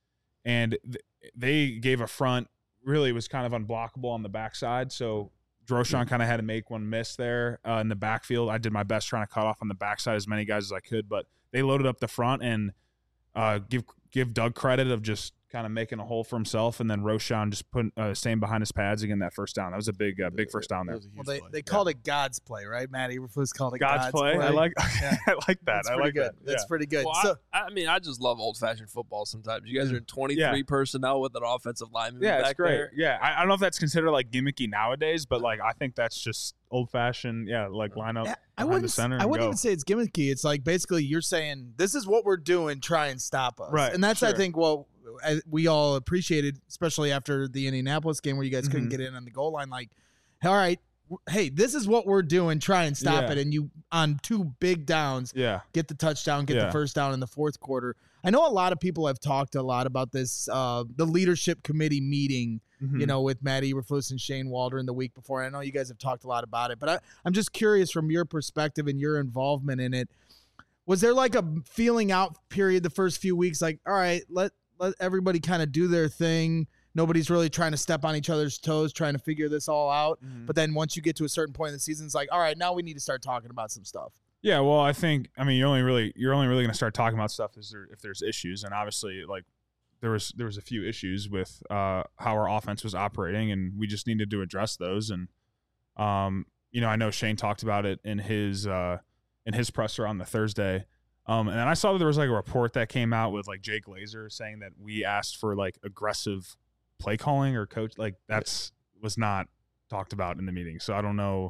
and th- they gave a front. Really, it was kind of unblockable on the backside, so Droshan kind of had to make one miss there uh, in the backfield. I did my best trying to cut off on the backside as many guys as I could, but they loaded up the front, and uh, give give Doug credit of just kind of making a hole for himself, and then Roshan just putting uh, staying behind his pads again that first down. That was a big uh, big first down there. That was a Well, huge they, play. they called it God's play, right? Matt Eberflus called it God's, God's play. I like Yeah. I like that. That's I pretty like good. that. That's Yeah. pretty good. well, so I, I mean, I just love old fashioned football sometimes. You guys are in twenty-three Yeah. personnel with an offensive lineman Yeah, back it's great. there. Yeah, I, I don't know if that's considered like gimmicky nowadays, but like I think that's just old fashioned. Yeah, like line up Yeah, I behind wouldn't. the center. I and wouldn't go. even say it's gimmicky. It's like basically you're saying this is what we're doing. Try and stop us. Right, And that's I sure. think what uh, we all appreciated, especially after the Indianapolis game where you guys couldn't Mhm. get in on the goal line. Like, all right, w- hey, this is what we're doing. Try and stop Yeah. it. And you on two big downs, Yeah. get the touchdown, get Yeah. the first down in the fourth quarter. I know a lot of people have talked a lot about this, uh, the leadership committee meeting, Mhm. you know, with Matt Eberflus and Shane Waldron the week before. I know you guys have talked a lot about it, but I, I'm just curious from your perspective and your involvement in it. Was there like a feeling out period the first few weeks? Like, all right, let, let everybody kind of do their thing. Nobody's really trying to step on each other's toes, trying to figure this all out. Mhm. But then once you get to a certain point in the season, it's like, all right, now we need to start talking about some stuff. Yeah, well, I think I mean you're only really you're only really going to start talking about stuff is there, if there's issues, and obviously like there was there was a few issues with uh, how our offense was operating, and we just needed to address those. And um, you know, I know Shane talked about it in his uh, in his presser on the Thursday. Um, and then I saw that there was like a report that came out with like Jay Glazer saying that we asked for like aggressive play calling or coach, like that's was not talked about in the meeting. So I don't know.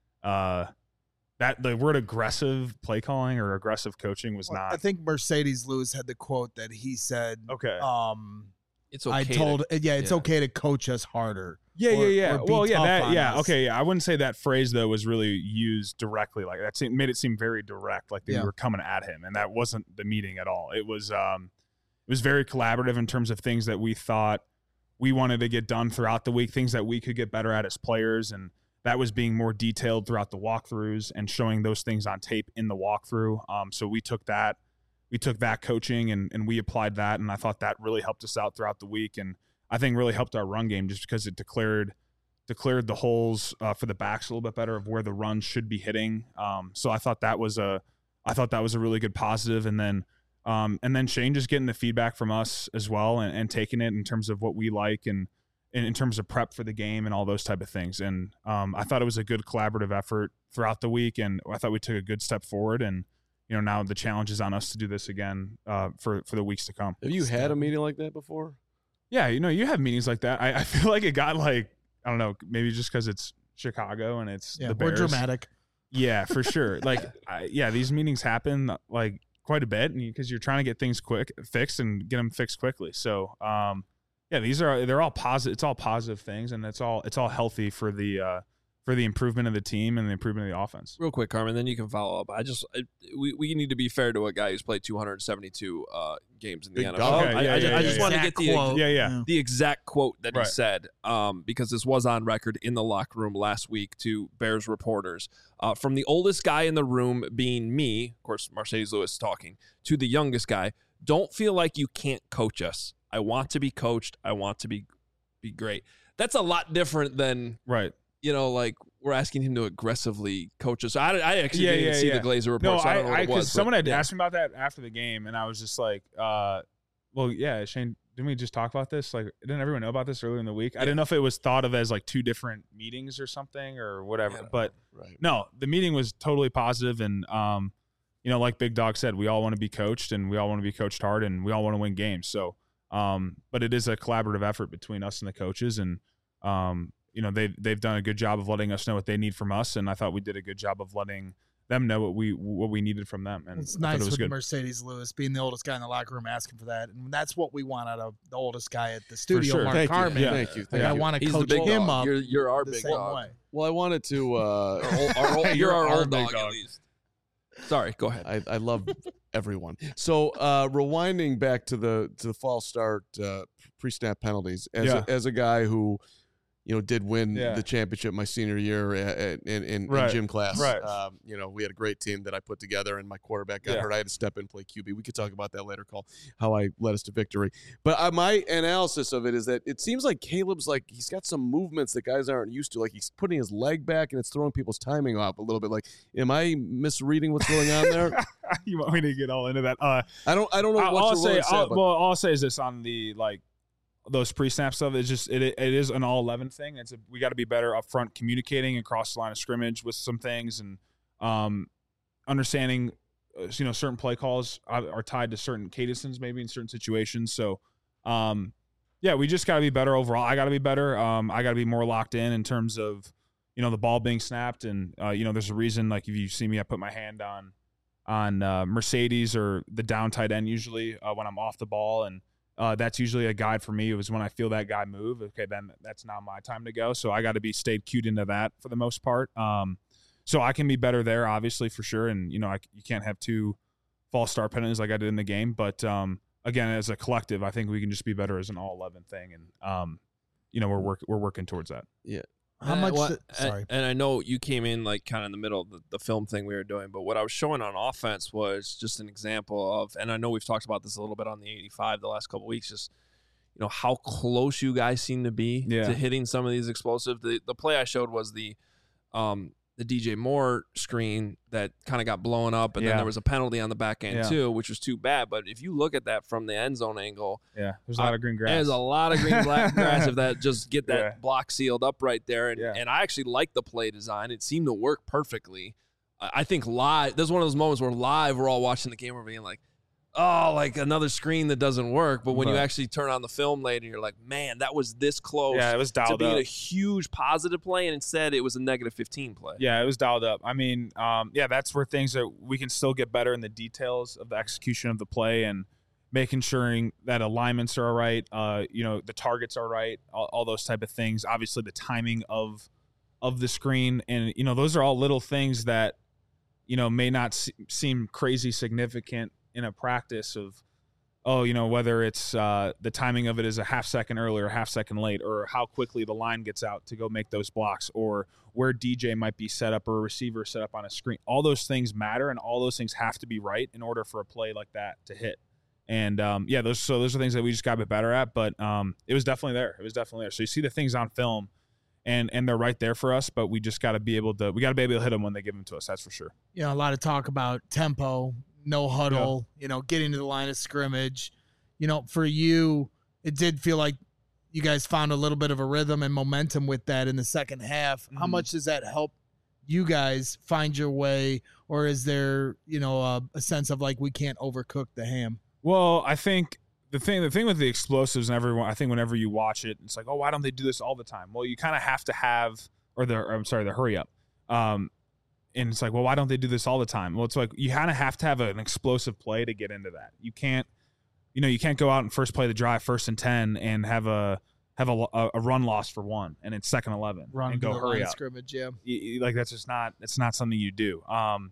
Uh, That the word aggressive play calling or aggressive coaching was Well, not I think Mercedes Lewis had the quote that he said, okay. um, It's okay. I told, to, yeah, it's yeah. okay to coach us harder. yeah, or- yeah, yeah. or be Well, yeah, tough that, on yeah. us. Okay, yeah. I wouldn't say that phrase though was really used directly like that. It made it seem very direct, like they Yeah. were coming at him, and that wasn't the meeting at all. It was, um, it was very collaborative in terms of things that we thought we wanted to get done throughout the week, things that we could get better at as players, and that was being more detailed throughout the walkthroughs and showing those things on tape in the walkthrough. Um, so we took that, we took that coaching and and we applied that, and I thought that really helped us out throughout the week, and I think really helped our run game just because it declared declared the holes uh, for the backs a little bit better of where the runs should be hitting. Um, so I thought that was a I thought that was a really good positive, and then um, and then Shane just getting the feedback from us as well and, and taking it in terms of what we like and. In, in terms of prep for the game and all those type of things. And um, I thought it was a good collaborative effort throughout the week, and I thought we took a good step forward. And you know, now the challenge is on us to do this again uh, for for the weeks to come. Have you had a meeting like that before? Yeah, you know, you have meetings like that. I, I feel like it got like I don't know, maybe just because it's Chicago and it's Yeah, the we're Bears. dramatic. Yeah, for sure. Like, I, yeah, these meetings happen like quite a bit because you're trying to get things quick fixed and get them fixed quickly. So. Um, Yeah, these are they're all positive. It's all positive things, and it's all it's all healthy for the uh, for the improvement of the team and the improvement of the offense. Real quick, Carmen, then you can follow up. I just I, we we need to be fair to a guy who's played two hundred seventy-two uh, games in the Big N F L. dog. Okay, I, yeah, I, yeah, just, yeah, I just yeah. want to get Exact the quote. Yeah, yeah. the exact quote that Right. he said, um, because this was on record in the locker room last week to Bears reporters. Uh, from the oldest guy in the room being me, of course, Mercedes Lewis talking, to the youngest guy, don't feel like you can't coach us. I want to be coached. I want to be be great. That's a lot different than, Right. you know, like we're asking him to aggressively coach us. I, I actually Yeah, didn't even yeah, see yeah. the Glazer report. No, so I I, don't know what I it because was. someone but, had yeah. asked me about that after the game, and I was just like, uh, well, yeah, Shane, didn't we just talk about this? Like, didn't everyone know about this earlier in the week? I didn't know if it was thought of as like two different meetings or something or whatever. Yeah. But Right. no, the meeting was totally positive, and um, you know, like Big Dog said, we all want to be coached, and we all want to be coached hard, and we all want to win games. So, um, but it is a collaborative effort between us and the coaches, and um, you know, they they've done a good job of letting us know what they need from us, and I thought we did a good job of letting them know what we what we needed from them. And It's I thought nice it was with good. Mercedes Lewis being the oldest guy in the locker room asking for that, and that's what we want out of the oldest guy at the studio, sure. Mark Thank you. Carmen. Yeah. Thank you. Like, Thank I you. want to He's the coach big him dog. up You're, you're our the big same dog. way. Well, I wanted to. Uh, Our old, our old, You're you're our our old big dog, dog. at least. Sorry, go ahead. I, I love everyone. So uh, rewinding back to the to the false start uh, pre-snap penalties, as Yeah. a, as a guy who, you know, did win Yeah. the championship my senior year at, at, in, in, Right. in gym class. Right. Um, you know, we had a great team that I put together, and my quarterback got Yeah. hurt. I had to step in and play Q B. We could talk about that later, Call, how I led us to victory. But uh, my analysis of it is that it seems like Caleb's like he's got some movements that guys aren't used to. Like he's putting his leg back, and it's throwing people's timing off a little bit. Like, am I misreading what's going on there? You want me to get all into that? Uh, I don't. I don't know I'll, what I'll you're say. willing to say. I'll, about- well, all I'll say is this on the like those pre-snap stuff. It's just it it is an all eleven thing. It's a, we got to be better up front communicating across the line of scrimmage with some things and um, understanding. Uh, you know, certain play calls are, are tied to certain cadences, maybe in certain situations. So, um, yeah, we just got to be better overall. I got to be better. Um, I got to be more locked in in terms of you know the ball being snapped, and uh, you know there's a reason. Like if you see me, I put my hand on. on uh, Mercedes or the down tight end usually uh, when I'm off the ball. And uh, that's usually a guide for me. It was when I feel that guy move. Okay, then that's now my time to go. So I got to be stayed cued into that for the most part. Um, so I can be better there, obviously, for sure. And, you know, I, you can't have two false start penalties like I did in the game. But, um, again, as a collective, I think we can just be better as an all eleven thing. And, um, you know, we're, work, we're working towards that. Yeah. How And I- much? what- the- sorry. And, and I know you came in like kind of in the middle of the, the film thing we were doing, but what I was showing on offense was just an example of, and I know we've talked about this a little bit on the eighty-five the last couple of weeks, just, you know, how close you guys seem to be Yeah. to hitting some of these explosive. The the play I showed was the um the D J Moore screen that kind of got blown up, and Yeah. then there was a penalty on the back end Yeah. too, which was too bad. But if you look at that from the end zone angle, Yeah. There's a Uh, lot of green grass. there's a lot of green black grass if that just get that Yeah. block sealed up right there. And, Yeah. and I actually like the play design. It seemed to work perfectly. I I think live, there's one of those moments where live we're all watching the game, we're being like, oh, like another screen that doesn't work. But when you Right. actually turn on the film later, you're like, man, that was this close Yeah, it was to dialed being up. a huge positive play. And instead it was a negative fifteen play. Yeah, it was dialed up. I mean, um, yeah, that's where things that we can still get better in the details of the execution of the play and making sure that alignments are all right. Uh, you know, the targets are right, all, all those type of things. Obviously, the timing of of the screen, and you know, those are all little things that you know may not se- seem crazy significant in a practice of. Oh, you know, whether it's uh, the timing of it is a half second early or half second late, or how quickly the line gets out to go make those blocks, or where D J might be set up or a receiver set up on a screen. All those things matter, and all those things have to be right in order for a play like that to hit. And, um, yeah, those so those are things that we just got to be better at, but um, it was definitely there. It was definitely there. So you see the things on film, and and they're right there for us, but we just got to be able to – we got to be able to hit them when they give them to us. That's for sure. You know, a lot of talk about tempo, no huddle, you know, getting to the line of scrimmage. You know, for you, it did feel like you guys found a little bit of a rhythm and momentum with that in the second half. How Mhm. much does that help you guys find your way, or is there, you know, a, a sense of like we can't overcook the ham? Well, I think the thing the thing with the explosives and everyone, I think whenever you watch it, it's like, oh, why don't they do this all the time? Well, you kind of have to have, or the, or I'm sorry, the hurry up. Um, and it's like, well, why don't they do this all the time? Well, it's like you kind of have to have an explosive play to get into that. You can't, you know, you can't go out and first play the drive, first and ten, and have a have a, a run loss for one, and it's second eleven, Run and to go the hurry line of up. scrimmage, yeah. You- you- like that's just not it's not something you do. Um,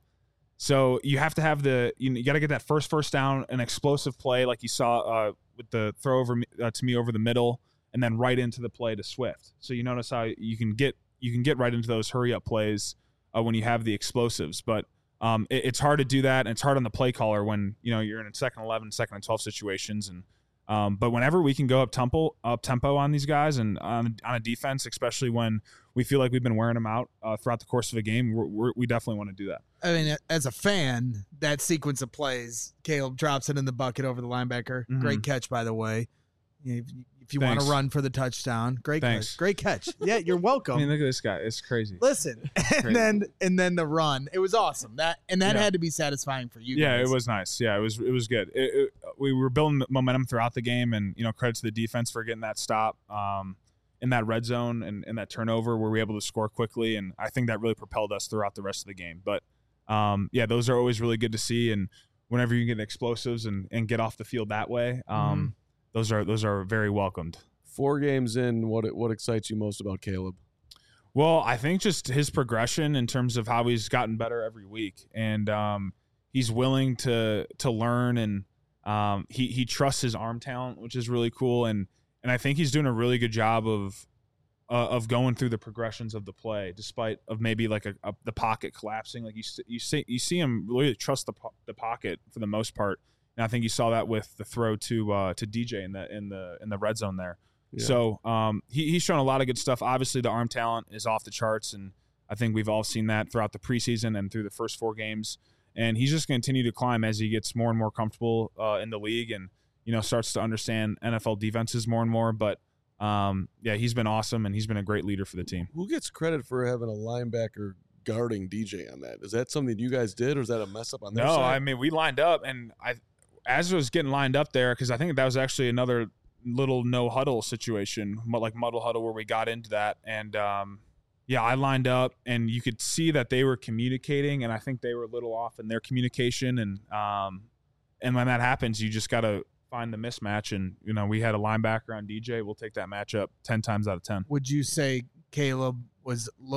so you have to have the you, you got to get that first first down, an explosive play like you saw uh, with the throw over me- uh, to me over the middle, and then right into the play to Swift. So you notice how you can get you can get right into those hurry up plays uh, when you have the explosives, but um, it, it's hard to do that, and it's hard on the play caller when you know you're in a second eleven, second and twelve situations, and um, but whenever we can go up tempo up tempo on these guys and on, on a defense, especially when we feel like we've been wearing them out uh, throughout the course of a game, we're, we're, we definitely want to do that. I mean, as a fan, that sequence of plays, Caleb drops it in the bucket over the linebacker. Mhm. Great catch, by the way. If, if you want Thanks. to run for the touchdown, great Thanks. catch. Great catch. Yeah, you're welcome. I mean, look at this guy; it's crazy. Listen, and then and then the run. It was awesome. That and that Yeah. had to be satisfying for you. Yeah, guys. it was nice. Yeah, it was it was good. It, it, we were building momentum throughout the game, and you know, credit to the defense for getting that stop um, in that red zone and, and that turnover where we were able to score quickly, and I think that really propelled us throughout the rest of the game. But um, yeah, those are always really good to see, and whenever you get explosives and, and get off the field that way, um, those are those are very welcomed. Four games in, what what excites you most about Caleb? Well, I think just his progression in terms of how he's gotten better every week, and um, he's willing to to learn, and um, he he trusts his arm talent, which is really cool, and and I think he's doing a really good job of uh, of going through the progressions of the play, despite of maybe like a, a the pocket collapsing. Like you you see you see him really trust the po- the pocket for the most part, and I think you saw that with the throw to uh, to D J in the in the in the red zone there. Yeah. So um, he, he's shown a lot of good stuff. Obviously, the arm talent is off the charts, and I think we've all seen that throughout the preseason and through the first four games. And he's just going to continue to climb as he gets more and more comfortable uh, in the league, and you know starts to understand N F L defenses more and more. But um, yeah, he's been awesome, and he's been a great leader for the team. Who gets credit for having a linebacker guarding D J on that? Is that something you guys did, or is that a mess up on their No, side? I mean we lined up, and I as I was getting lined up there because I think that was actually another little no huddle situation, like muddle huddle, where we got into that, and um, yeah, I lined up, and you could see that they were communicating, and I think they were a little off in their communication, and um, and when that happens, you just got to find the mismatch, and you know we had a linebacker on D J. We'll take that matchup ten times out of ten. Would you say Caleb was look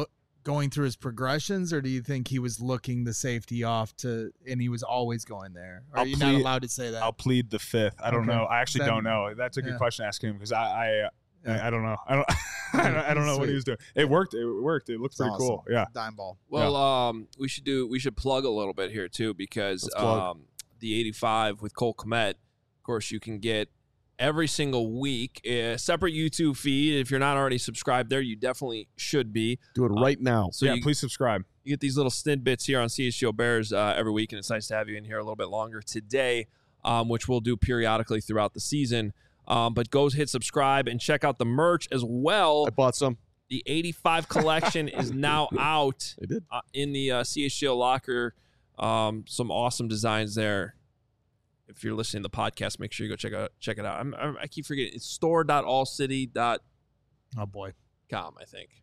going through his progressions, or do you think he was looking the safety off to, and he was always going there? Or are I'll you plead- not allowed to say that? I'll plead the fifth. I don't Okay. know. I actually Then- don't know. That's a good yeah. question to ask him because I I, Yeah. I I don't know. I don't I don't, I don't know what he Sweet. was doing. It worked. It worked. It looked It's pretty awesome. cool. Yeah. Dime ball. Well, um, we should do we should plug a little bit here too because Let's plug. um, the eighty-five with Cole Kmet, of course, you can get every single week a separate YouTube feed. If you're not already subscribed there, you definitely should be. Do it right now. So yeah. you, Please subscribe. you get these little snippets here on C H G O Bears uh, every week, and it's nice to have you in here a little bit longer today, um, which we'll do periodically throughout the season. Um, but go hit subscribe and check out the merch as well. I bought some. The eighty-five collection is now out I did. uh, in the uh, C H G O locker. Um, some awesome designs there. If you're listening to the podcast, make sure you go check out check it out. I'm, I'm, I keep forgetting. It's store dot all city dot Oh boy. com, I think.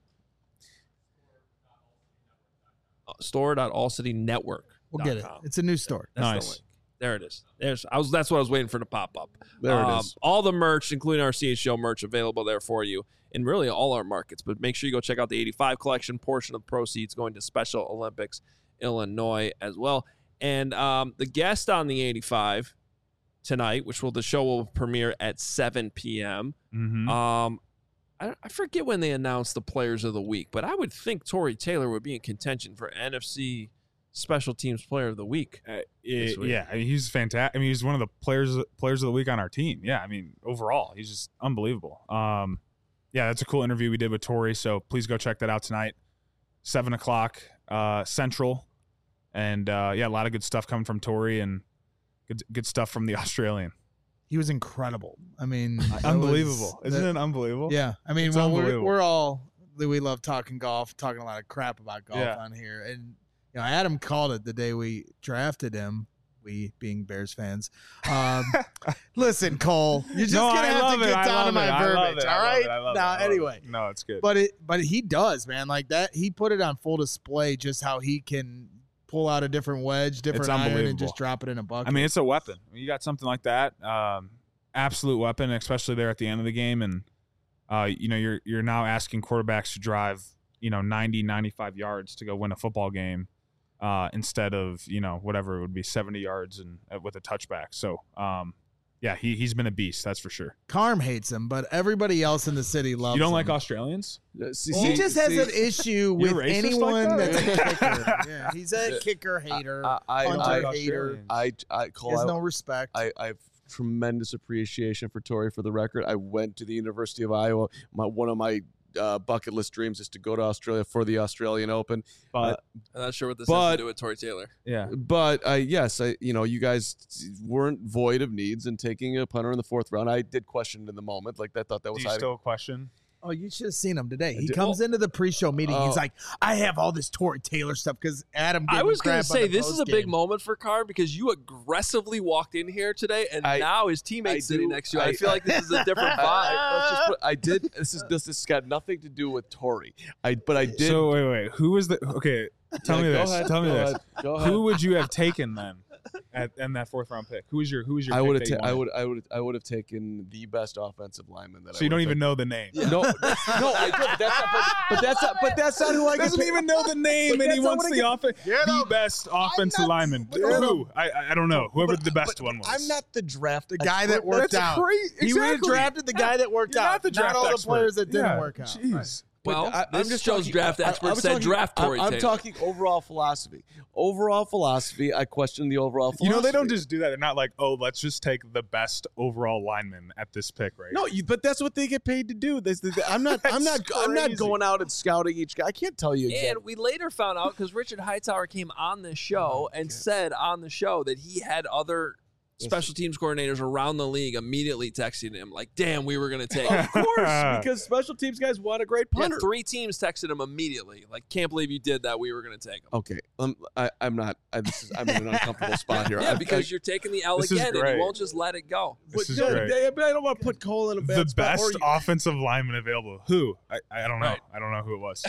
Uh, store dot all city network. We'll get it. It's a new store. That's Nice. the link. There it is. There's. I was. That's what I was waiting for to pop up. There it Um, is. All the merch, including our C H G O merch, available there for you in really all our markets. But make sure you go check out the eighty-five collection. Portion of the proceeds going to Special Olympics Illinois as well. And um, the guest on the eighty-five tonight, which will the show will premiere at seven p.m. Mm-hmm. Um, I, I forget when they announced the players of the week, but I would think Torrey Taylor would be in contention for N F C Special Teams Player of the Week. Uh, this it- week. yeah, I mean, he's fantastic. I mean, he's one of the players players of the week on our team. Yeah, I mean, overall, he's just unbelievable. Um, yeah, that's a cool interview we did with Torrey. So please go check that out tonight, seven o'clock uh, Central, and uh, yeah, a lot of good stuff coming from Torrey and good good stuff from the Australian. He was incredible. I mean, that Unbelievable, was- isn't that- it unbelievable? Yeah. I mean, It's well, we're, unbelievable. we're all we love talking golf, talking a lot of crap about golf Yeah. on here, and you know, Adam called it the day we drafted him. We being Bears fans. Um, listen, Cole, you're just No, gonna I have love to it. get I down love to it. my I love verbiage. it. I All love right. it. I love it. Now, I love it. anyway, no, it's good. but it but he does, man. Like that, he put it on full display just how he can pull out a different wedge, different iron, and unbelievable. just drop it in a bucket. I mean, it's a weapon. When you got something like that, um, absolute weapon, especially there at the end of the game. And, uh, you know, you're you're now asking quarterbacks to drive, you know, ninety, ninety-five yards to go win a football game uh, instead of, you know, whatever it would be, seventy yards and uh, with a touchback. So, um, yeah, he, he's been a beast. That's for sure. Carm hates him, but everybody else in the city loves You don't him. like Australians? Uh, see- He see- just has see, an issue You're with racist anyone like that? that's a kicker. Yeah, he's a Uh, kicker hater, I, I, punter I, like hater. Australians. I, I, He Cole, has I, no respect. I, I have tremendous appreciation for Torrey. For the record, I went to the University of Iowa. My one of my uh, bucket list dreams is to go to Australia for the Australian Open. But, I'm not sure what this But- has to do with Torrey Taylor. yeah. But uh, yes, I, you know, you guys weren't void of needs in taking a punter in the fourth round. I did question it in the moment, like I thought that Do was you hiding. still question? Oh, you should have seen him today. He did- comes into the pre-show meeting. He's Oh. like, "I have all this Torrey Taylor stuff because Adam." Gave I was going going to to say, this is a big moment for Carr because you aggressively walked in here today, and I- now his teammate's I sitting do- next to you. I, I- feel like this is a different I, vibe. let's just put, I did. This is this, this has got nothing to do with Torrey. I but I did. So, wait, wait. Who was the – okay, tell Yeah, me go this. ahead, tell me go this. ahead, go ahead. Who would you have taken then at in that fourth round pick? Who was your who was your I pick would have. that you Ta- I wanted? would. I would. I would have taken the best offensive lineman that. So I you don't would've even know the name. taken. No, no, I did. But that's not. But, but that's not. But that's not who I Doesn't get even know the name, But and he that's not wants what I the get- offense, Get the him. best offensive not- lineman. Get Who? I I I don't know. Whoever But- the best but one was. I'm not the draft. The guy that expert. worked That's out. crazy. He would have Exactly. drafted the guy that worked You're out, not the draft all the expert. players that didn't Yeah, work out. Jeez. But Well, I, I'm this just show's talking- draft I- I- expert I was said talking- draft I- Torrey I'm Taylor. talking overall philosophy. Overall philosophy. I question the overall philosophy. You know they don't just do that. They're not like, oh, let's just take the best overall lineman at this pick, right? No, you, but that's what they get paid to do. This, this, I'm not. I'm not. That's I'm not crazy. going out and scouting each guy. I can't tell you. And Exactly. we later found out because Richard Hightower came on the show and said on the show that he had other special teams coordinators around the league immediately texting him like, "Damn, we were going to take." him." Of course, because special teams guys want a great Yeah, punter. three teams texted him immediately like, "Can't believe you did that. We were going to take him." Okay, um, I, I'm not. I, this is. I'm in an uncomfortable spot here. Yeah, I- because I, you're taking the L This is again and great. you won't just let it go. This but, is no, great. I, but I don't want to put Cole in a bad The spot. best or you- offensive lineman available. Who? I, I don't know. Right. I don't know who it was.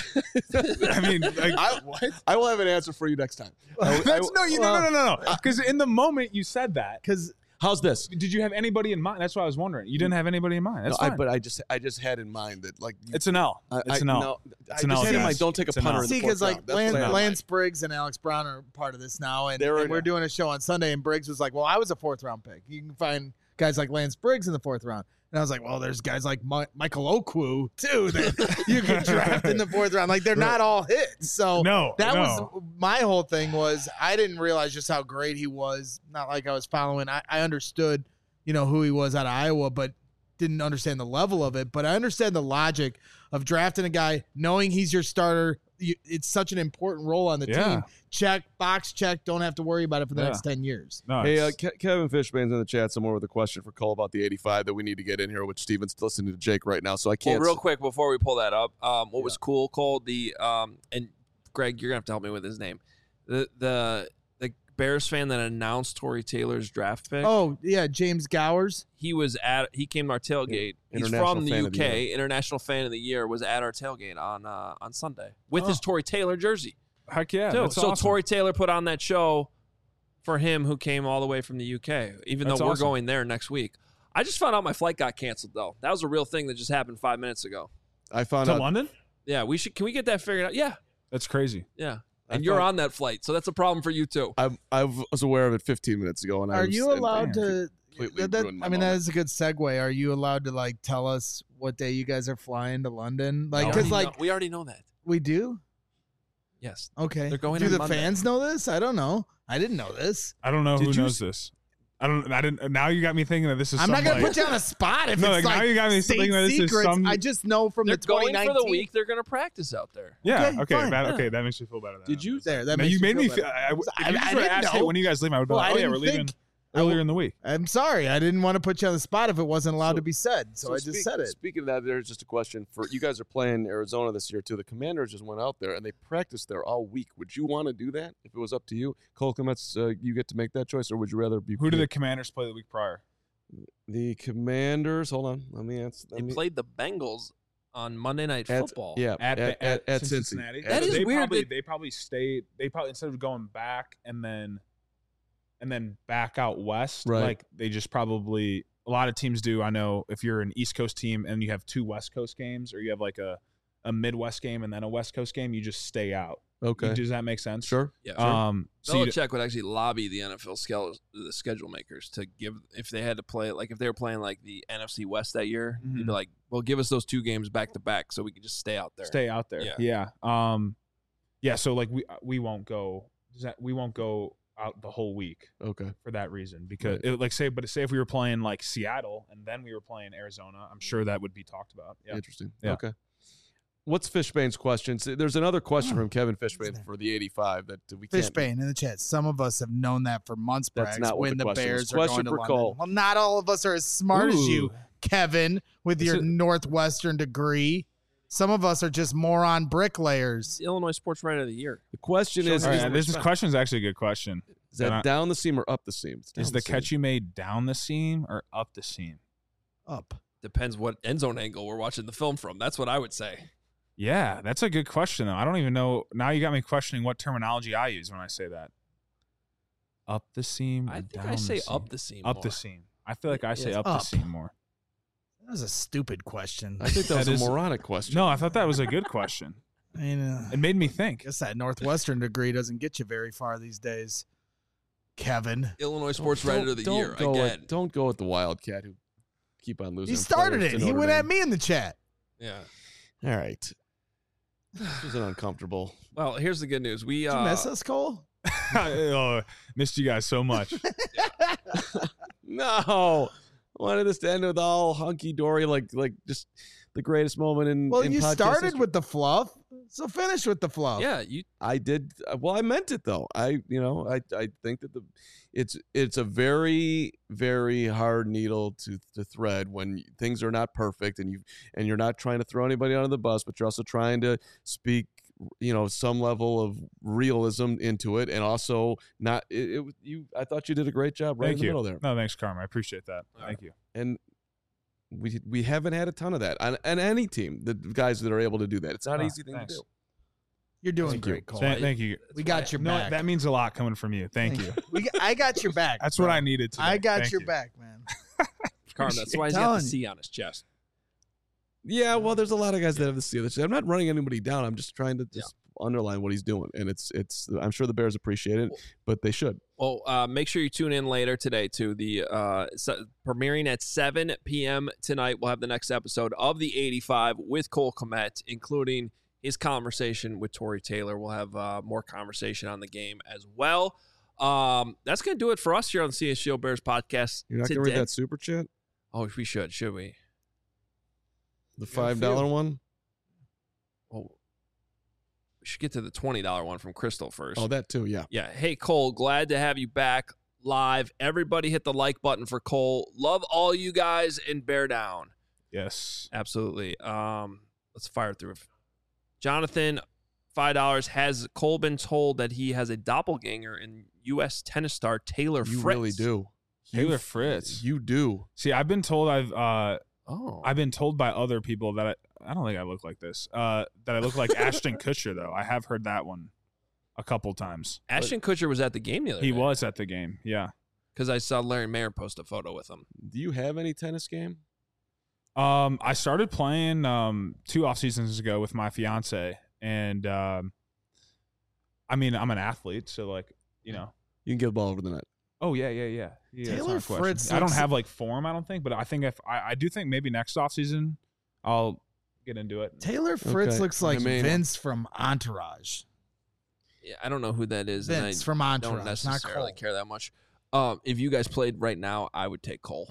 I mean, like, I, what? I will have an answer for you next time. I- I- That's, no, you, well, no, no, no, no. Because in the moment you said that, Because How's this? Did you have anybody in mind? That's what I was wondering. You didn't have anybody in mind. That's No, I, fine. but I just I just had in mind that like you, it's an L. I, It's I, an L. No, It's I an just L, had in guys. mind. Don't take a It's an punter L. in See, the because fourth like round. That's Lance, what I had. Lance Briggs and Alex Brown are part of this now, and, They're- and we're doing a show on Sunday, and Briggs was like, "Well, I was a fourth round pick. You can find guys like Lance Briggs in the fourth round." And I was like, "Well, there's guys like Mi- Michael Okwu too that you can draft in the fourth round. Like they're not all hits." So No, that no. was my whole thing. Was I didn't realize just how great he was. Not like I was following. I, I understood, you know, who he was out of Iowa, but didn't understand the level of it. But I understand the logic of drafting a guy, knowing he's your starter. You, it's such an important role on the Yeah. team. Check, box check. Don't have to worry about it for the Yeah. next ten years. No, Hey, uh, it's- Ke- Kevin Fishbane's in the chat somewhere with a question for Cole about the eighty-five that we need to get in here, which Steven's listening to Jake right now, so I Well, can't. real s- quick before we pull that up, um, what was Yeah. cool, Cole, the um, and Greg, you're gonna have to help me with his name. The the the Bears fan that announced Tory Taylor's draft pick. Oh yeah, James Gowers. He was at he came to our tailgate. He's International from the Fan U of the K. International Fan of the Year was at our tailgate on uh, on Sunday with Oh. his Tory Taylor jersey. heck yeah. too. That's so awesome. Tory Taylor put on that show for him, who came all the way from the U K. Even That's though we're awesome. going there next week. I just found out my flight got canceled though. That was a real thing that just happened five minutes ago. I found to out. London. Yeah, we should. Can we get that figured out? Yeah, That's crazy. yeah. I And you're thought- on that flight, so that's a problem for you too. I I was aware of it fifteen minutes ago, and I Are was, you and- allowed to? completely that- that- ruined my I mean, that moment. is a good segue. Are you allowed to like tell us what day you guys are flying to London? Like, We because already like know- we already know that. we do. Yes. Okay. They're going Do on the Monday. fans know this? I don't know. I didn't know this. I don't know Did who you knows s- this. I don't. I didn't. Now you got me thinking that this is. I'm some, not gonna like, put you on a spot if No, it's like, like now you got me state thinking that this is secrets. some- I just know from They're the going twenty for nineteen the week. They're going to practice out there. Yeah. Okay, Okay. fine. that, Yeah. okay. That makes me feel better. Did you there? That Man, makes you made me feel feel. better. I, if I- you I just would've didn't asked, hey, know. when are you guys leaving? I would be Well, like, I oh yeah, didn't we're leaving think- earlier in the week. I'm sorry. I didn't want to put you on the spot if it wasn't allowed So- to be said. So, I just speak- said it. Speaking of that, there's just a question for you guys are playing Arizona this year too. The Commanders just went out there and they practiced there all week. Would you want to do that if it was up to you? Cole Kmetz, uh, you get to make that choice, or would you rather be? Who did the Commanders play the week prior? the Commanders? Hold on, let me answer. They Let me, played the Bengals on Monday Night at, Football. Yeah, At at at, at, Cincy. Cincinnati. At That is they weird Probably, that- they probably stayed. They probably instead of going back and then, and then back out west. Right. Like they just probably a lot of teams do. I know if you're an East Coast team and you have two West Coast games, or you have like a a Midwest game and then a West Coast game, you just stay out. Okay, Does that make sense? sure. Yeah. Um. So you, Belichick would actually lobby the N F L schedule, the schedule makers to give if they had to play like if they were playing like the N F C West that year, he'd Mhm. be like, "Well, give us those two games back to back so we can just stay out there." stay out there. Yeah. Yeah. Um. Yeah. So like we we won't go. Does that we won't go out the whole week Okay, for that reason because Right. it, like say but say if we were playing like Seattle and then we were playing Arizona, I'm sure that would be talked about. Yeah. interesting. Yeah. Okay. What's Fishbane's question? So there's another question Oh, from Kevin Fishbane that? for the eighty-five that we can't. Fishbane in the chat. Some of us have known that for months. That's Brags, not what when the the, question was. Bears are Question going to for London. Cole. Well, not all of us are as smart as you, Ooh. Kevin, with Is your it- Northwestern degree. Some of us are just moron bricklayers. It's the Illinois Sports Writer of the Year. The question Show is: All is, right, this is respect. question is actually a good question. is that and I- down the seam or up the seam? It's down Is the seam. catch you made down the seam or up the seam? Up. Depends what end zone angle we're watching the film from. That's what I would say. Yeah, that's a good question though. I don't even know. Now you got me questioning what terminology I use when I say that. Up the seam. Or I think down I say the seam? up the seam. Up more. the seam. I feel like I say Yeah. up, the Up. seam more. That was a stupid question. I think that was That a is- moronic question. No, I thought that was a good question. I mean, uh, It made me think. guess that Northwestern degree doesn't get you very far these days, Kevin. Illinois Sports Don't- Writer of the don't Year Go again. with, don't go with the Wildcat who keep on losing. He started players it. to He Notre went at Dame. me in the chat. Yeah. All right. This was an uncomfortable. Well, here's the good news. We Did uh, you miss us, Cole? oh, missed you guys so much. No, I wanted this to end with all hunky dory, like like just the greatest moment in. Well, in you podcast started history. with the fluff, so finish with the fluff. Yeah, you I did uh, well. I meant it though. I you know I I think that the it's it's a very very hard needle to to thread when things are not perfect and you and you're not trying to throw anybody under the bus, but you're also trying to speak you know some level of realism into it, and also not it, it you. I thought you did a great job right Thank in the you. middle there, No, thanks, Carm. I appreciate that. All Thank you. and. We, we haven't had a ton of that on, on any team. The guys that are able to do that, it's not an Oh, easy thing thanks. to do. You're doing Thank great, you. Cole. Th- thank you. we got your No, back. that means a lot coming from you. Thank you. We, I got your back. That's bro. what I needed today. I got Thank your you. back, man. Carm, that's why he's got Telling the you. C on his chest. Yeah, well, there's a lot of guys that have the Steelers. I'm not running anybody down. I'm just trying to just underline what he's doing, and it's it's. I'm sure the Bears appreciate it, but they should. Well, uh, make sure you tune in later today to the uh, se- premiering at seven p.m. tonight. We'll have the next episode of the eighty-five with Cole Kmet, including his conversation with Tory Taylor. We'll have uh, more conversation on the game as well. Um, that's going to do it for us here on the C H G O Bears podcast. You're not going to today. read that super chat, Oh, we should, should we? the five dollar one. Well, we should get to the twenty dollar one from Crystal first. Oh, that too. Yeah. Yeah. Hey, Cole, glad to have you back live. Everybody hit the like button for Cole. Love all you guys and bear down. Yes. Absolutely. Um, let's fire through. Jonathan, five dollars. Has Cole been told that he has a doppelganger in U S tennis star Taylor You Fritz? really do. Taylor You- Fritz. You do. See, I've been told I've uh Oh. I've been told by other people that I, I don't think I look like this. Uh, that I look like Ashton Kutcher though. I have heard that one a couple times. Ashton Kutcher was at the game the other He day. was at the game. Yeah. Because I saw Larry Mayer post a photo with him. Do you have any tennis game? Um, I started playing um two off seasons ago with my fiance, and um, I mean I'm an athlete, so like you know. You can get the ball over the net. Oh yeah, yeah, yeah. yeah that's Taylor not a question. Fritz I don't looks- have like form, I don't think, but I think if I, I do think maybe next off season I'll get into it. Taylor Fritz Okay. looks like I mean- Vince from Entourage. Yeah, I don't know who that is. and Vince I from don't Entourage, not necessarily Cole. care that much. Um, if you guys played right now, I would take Cole.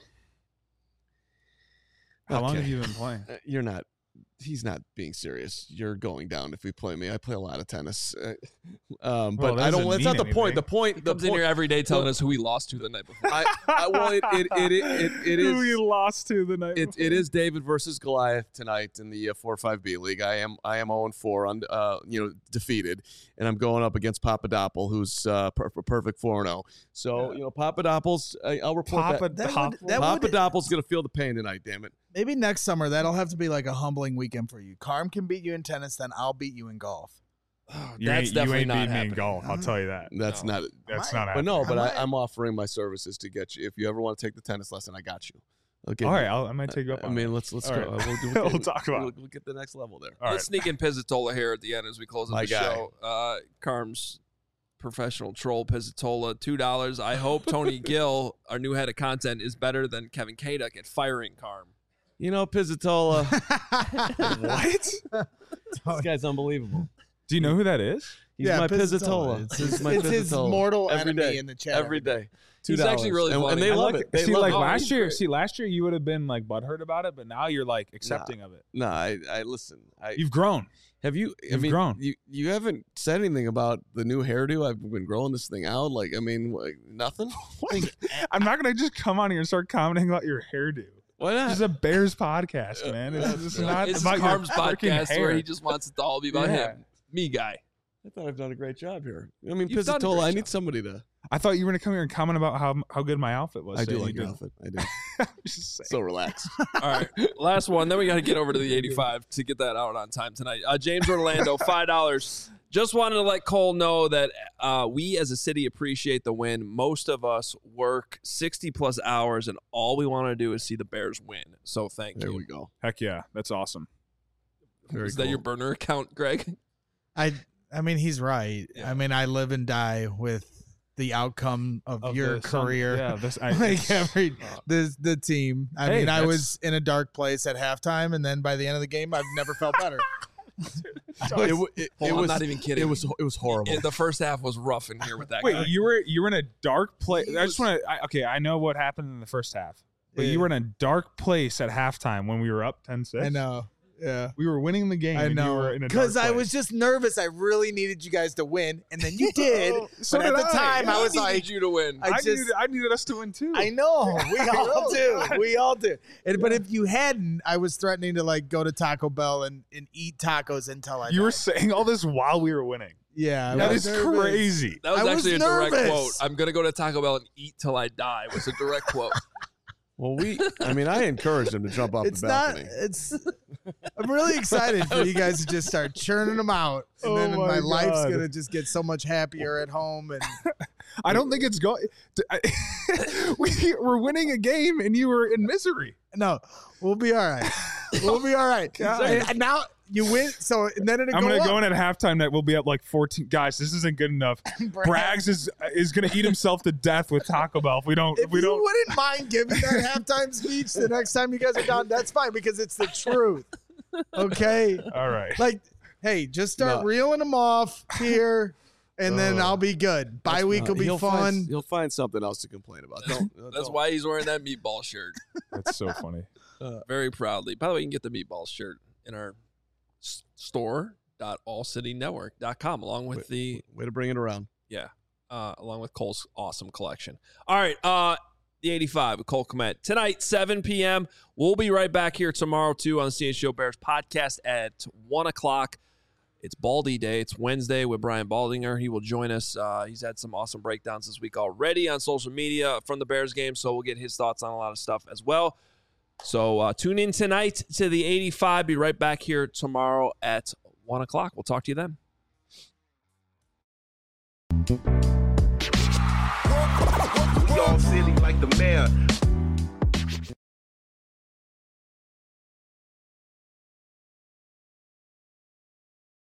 How long Okay. have you been playing? Uh, You're not. He's not being serious. You're going down if we play me. I play a lot of tennis, uh, um, Well, but that I don't. doesn't That's not the mean point. The anything. point. He The comes in point. here every day telling Well- us who he lost to the night before. I, I, well, it it it it, it, it is. Who you lost to the night It, before? it is David versus Goliath tonight in the uh, four five B league. I am I am zero and four on uh you know defeated, and I'm going up against Papadopoulos, who's uh per- perfect four and zero. So Yeah. you know Papadopoulos, I, I'll report Papa that. That would- Doppel? that would- Papadopoulos gonna feel the pain tonight. Damn it. Maybe next summer that'll have to be like a humbling weekend for you. Carm can beat you in tennis, then I'll beat you in golf. You That's ain't, definitely you ain't not beating me in happening. golf. I'll tell you that. That's No. not. That's Might. not But happening. no, but might. I, I'm offering my services to get you. If you ever want to take the tennis lesson, I got you. Okay. All right, I'll, I might take you up I on mean, it. let's let's All go. right. Uh, We'll, do- We'll talk about We'll, it. we'll get the next level there. All Let's sneak in Pizzatola here at the end as we close out My the guy. show. Uh, Carm's professional troll Pizzatola, two dollars. I hope Tony Gill, our new head of content, is better than Kevin Kaduk at firing Carm. You know, Pizzatola. What? This guy's unbelievable. Do you know who that is? He's Yeah, my Pizzatola. Pizzatola. It's He's his, my it's his Pizzatola. mortal Every enemy day. in the chat. Every day. He's two dollars. actually really and, funny. and they I love like it. They see, love like it. last year. great. See, last year you would have been like butthurt about it, but now you're like accepting of it. No, I, I listen. I You've grown. have you. I you've mean, grown. you you haven't said anything about the new hairdo. I've been growing this thing out. Like, I mean, like, nothing. I'm not gonna just come on here and start commenting about your hairdo. Why not? This is a Bears podcast, man. It's just not This is about Carm's your freaking podcast hair. where he just wants it to all be about Yeah. him. Me guy. I thought I've done a great job here. I mean, You've done a Pizzatola. great I job. need somebody to. I thought you were gonna come here and comment about how how good my outfit was. I so do you like your didn't. outfit. I do. Just saying. So relaxed. All right, last one. Then we got to get over to the eighty-five to get that out on time tonight. Uh, James Orlando, five dollars. Just wanted to let Cole know that uh, we as a city appreciate the win. Most of us work sixty plus hours, and all we want to do is see the Bears win. So thank There you. we go. Heck yeah, that's awesome. Very is that cool. your burner account, Greg? I I mean he's right. Yeah. I mean I live and die with the outcome of, Of your the Sun- career. yeah, this I, like it's- every uh, the the team. I Hey, mean I that's- was in a dark place at halftime, and then by the end of the game I've never felt better. It, w- it, Hold it on, was I'm not even kidding. It was it was horrible. Yeah, the first half was rough in here with that guy. Wait, you were you were in a dark place. He I just was- want to. Okay, I know what happened in the first half, but Yeah. you were in a dark place at halftime when we were up ten six. I know. Yeah. We were winning the game. I and you know. were in a Because dark I place. was just nervous. I really needed you guys to win, and then you did. So but at did the I. time, I I was needed like, you to win. I I, just- needed, I needed us to win too. I know. We all do. God. We all do. And, But if you hadn't, I was threatening to like go to Taco Bell and, and eat tacos until I You were died. saying all this while we were winning. Yeah. I That was is nervous. crazy. That was I was actually a direct nervous. quote. I'm gonna go to Taco Bell and eat till I die. Was a direct quote. Well, we, I mean, I encouraged him to jump off It's the not. balcony. It's. I'm really excited for you guys to just start churning them out, and Oh then my my, life's God. gonna just get so much happier at home. And I don't think it's going. we, we're winning a game, and you were in misery. no, we'll be all right. We'll be all right. God. And, and now you win. So and then it'll I'm go going to up. go in at halftime that we'll be up like fourteen. Guys, this isn't good enough. Braggs is is going to eat himself to death with Taco Bell if we don't. If If we you don't. wouldn't mind giving that halftime speech the next time you guys are down, that's fine because it's the truth. Okay. All right. Like, hey, just start No. reeling them off here, and then Uh, I'll be good. Bye week will be he'll fun. Find, he'll find something else to complain about. Don't, uh, That's don't. why he's wearing that meatball shirt That's so funny. very proudly. By the way, you can get the meatball shirt in our s- store dot all city network dot com along with the Way to bring it around. yeah, uh, along with Cole's awesome collection. All right, uh, the eighty-five with Cole Kmet tonight, seven p.m. We'll be right back here tomorrow too on the C H G O Bears podcast at one o'clock. It's Baldy Day. It's Wednesday with Brian Baldinger. He will join us. Uh, he's had some awesome breakdowns this week already on social media from the Bears game, so we'll get his thoughts on a lot of stuff as well. So uh, tune in tonight to the eighty-five. Be right back here tomorrow at one o'clock. We'll talk to you then. We all silly like the mayor.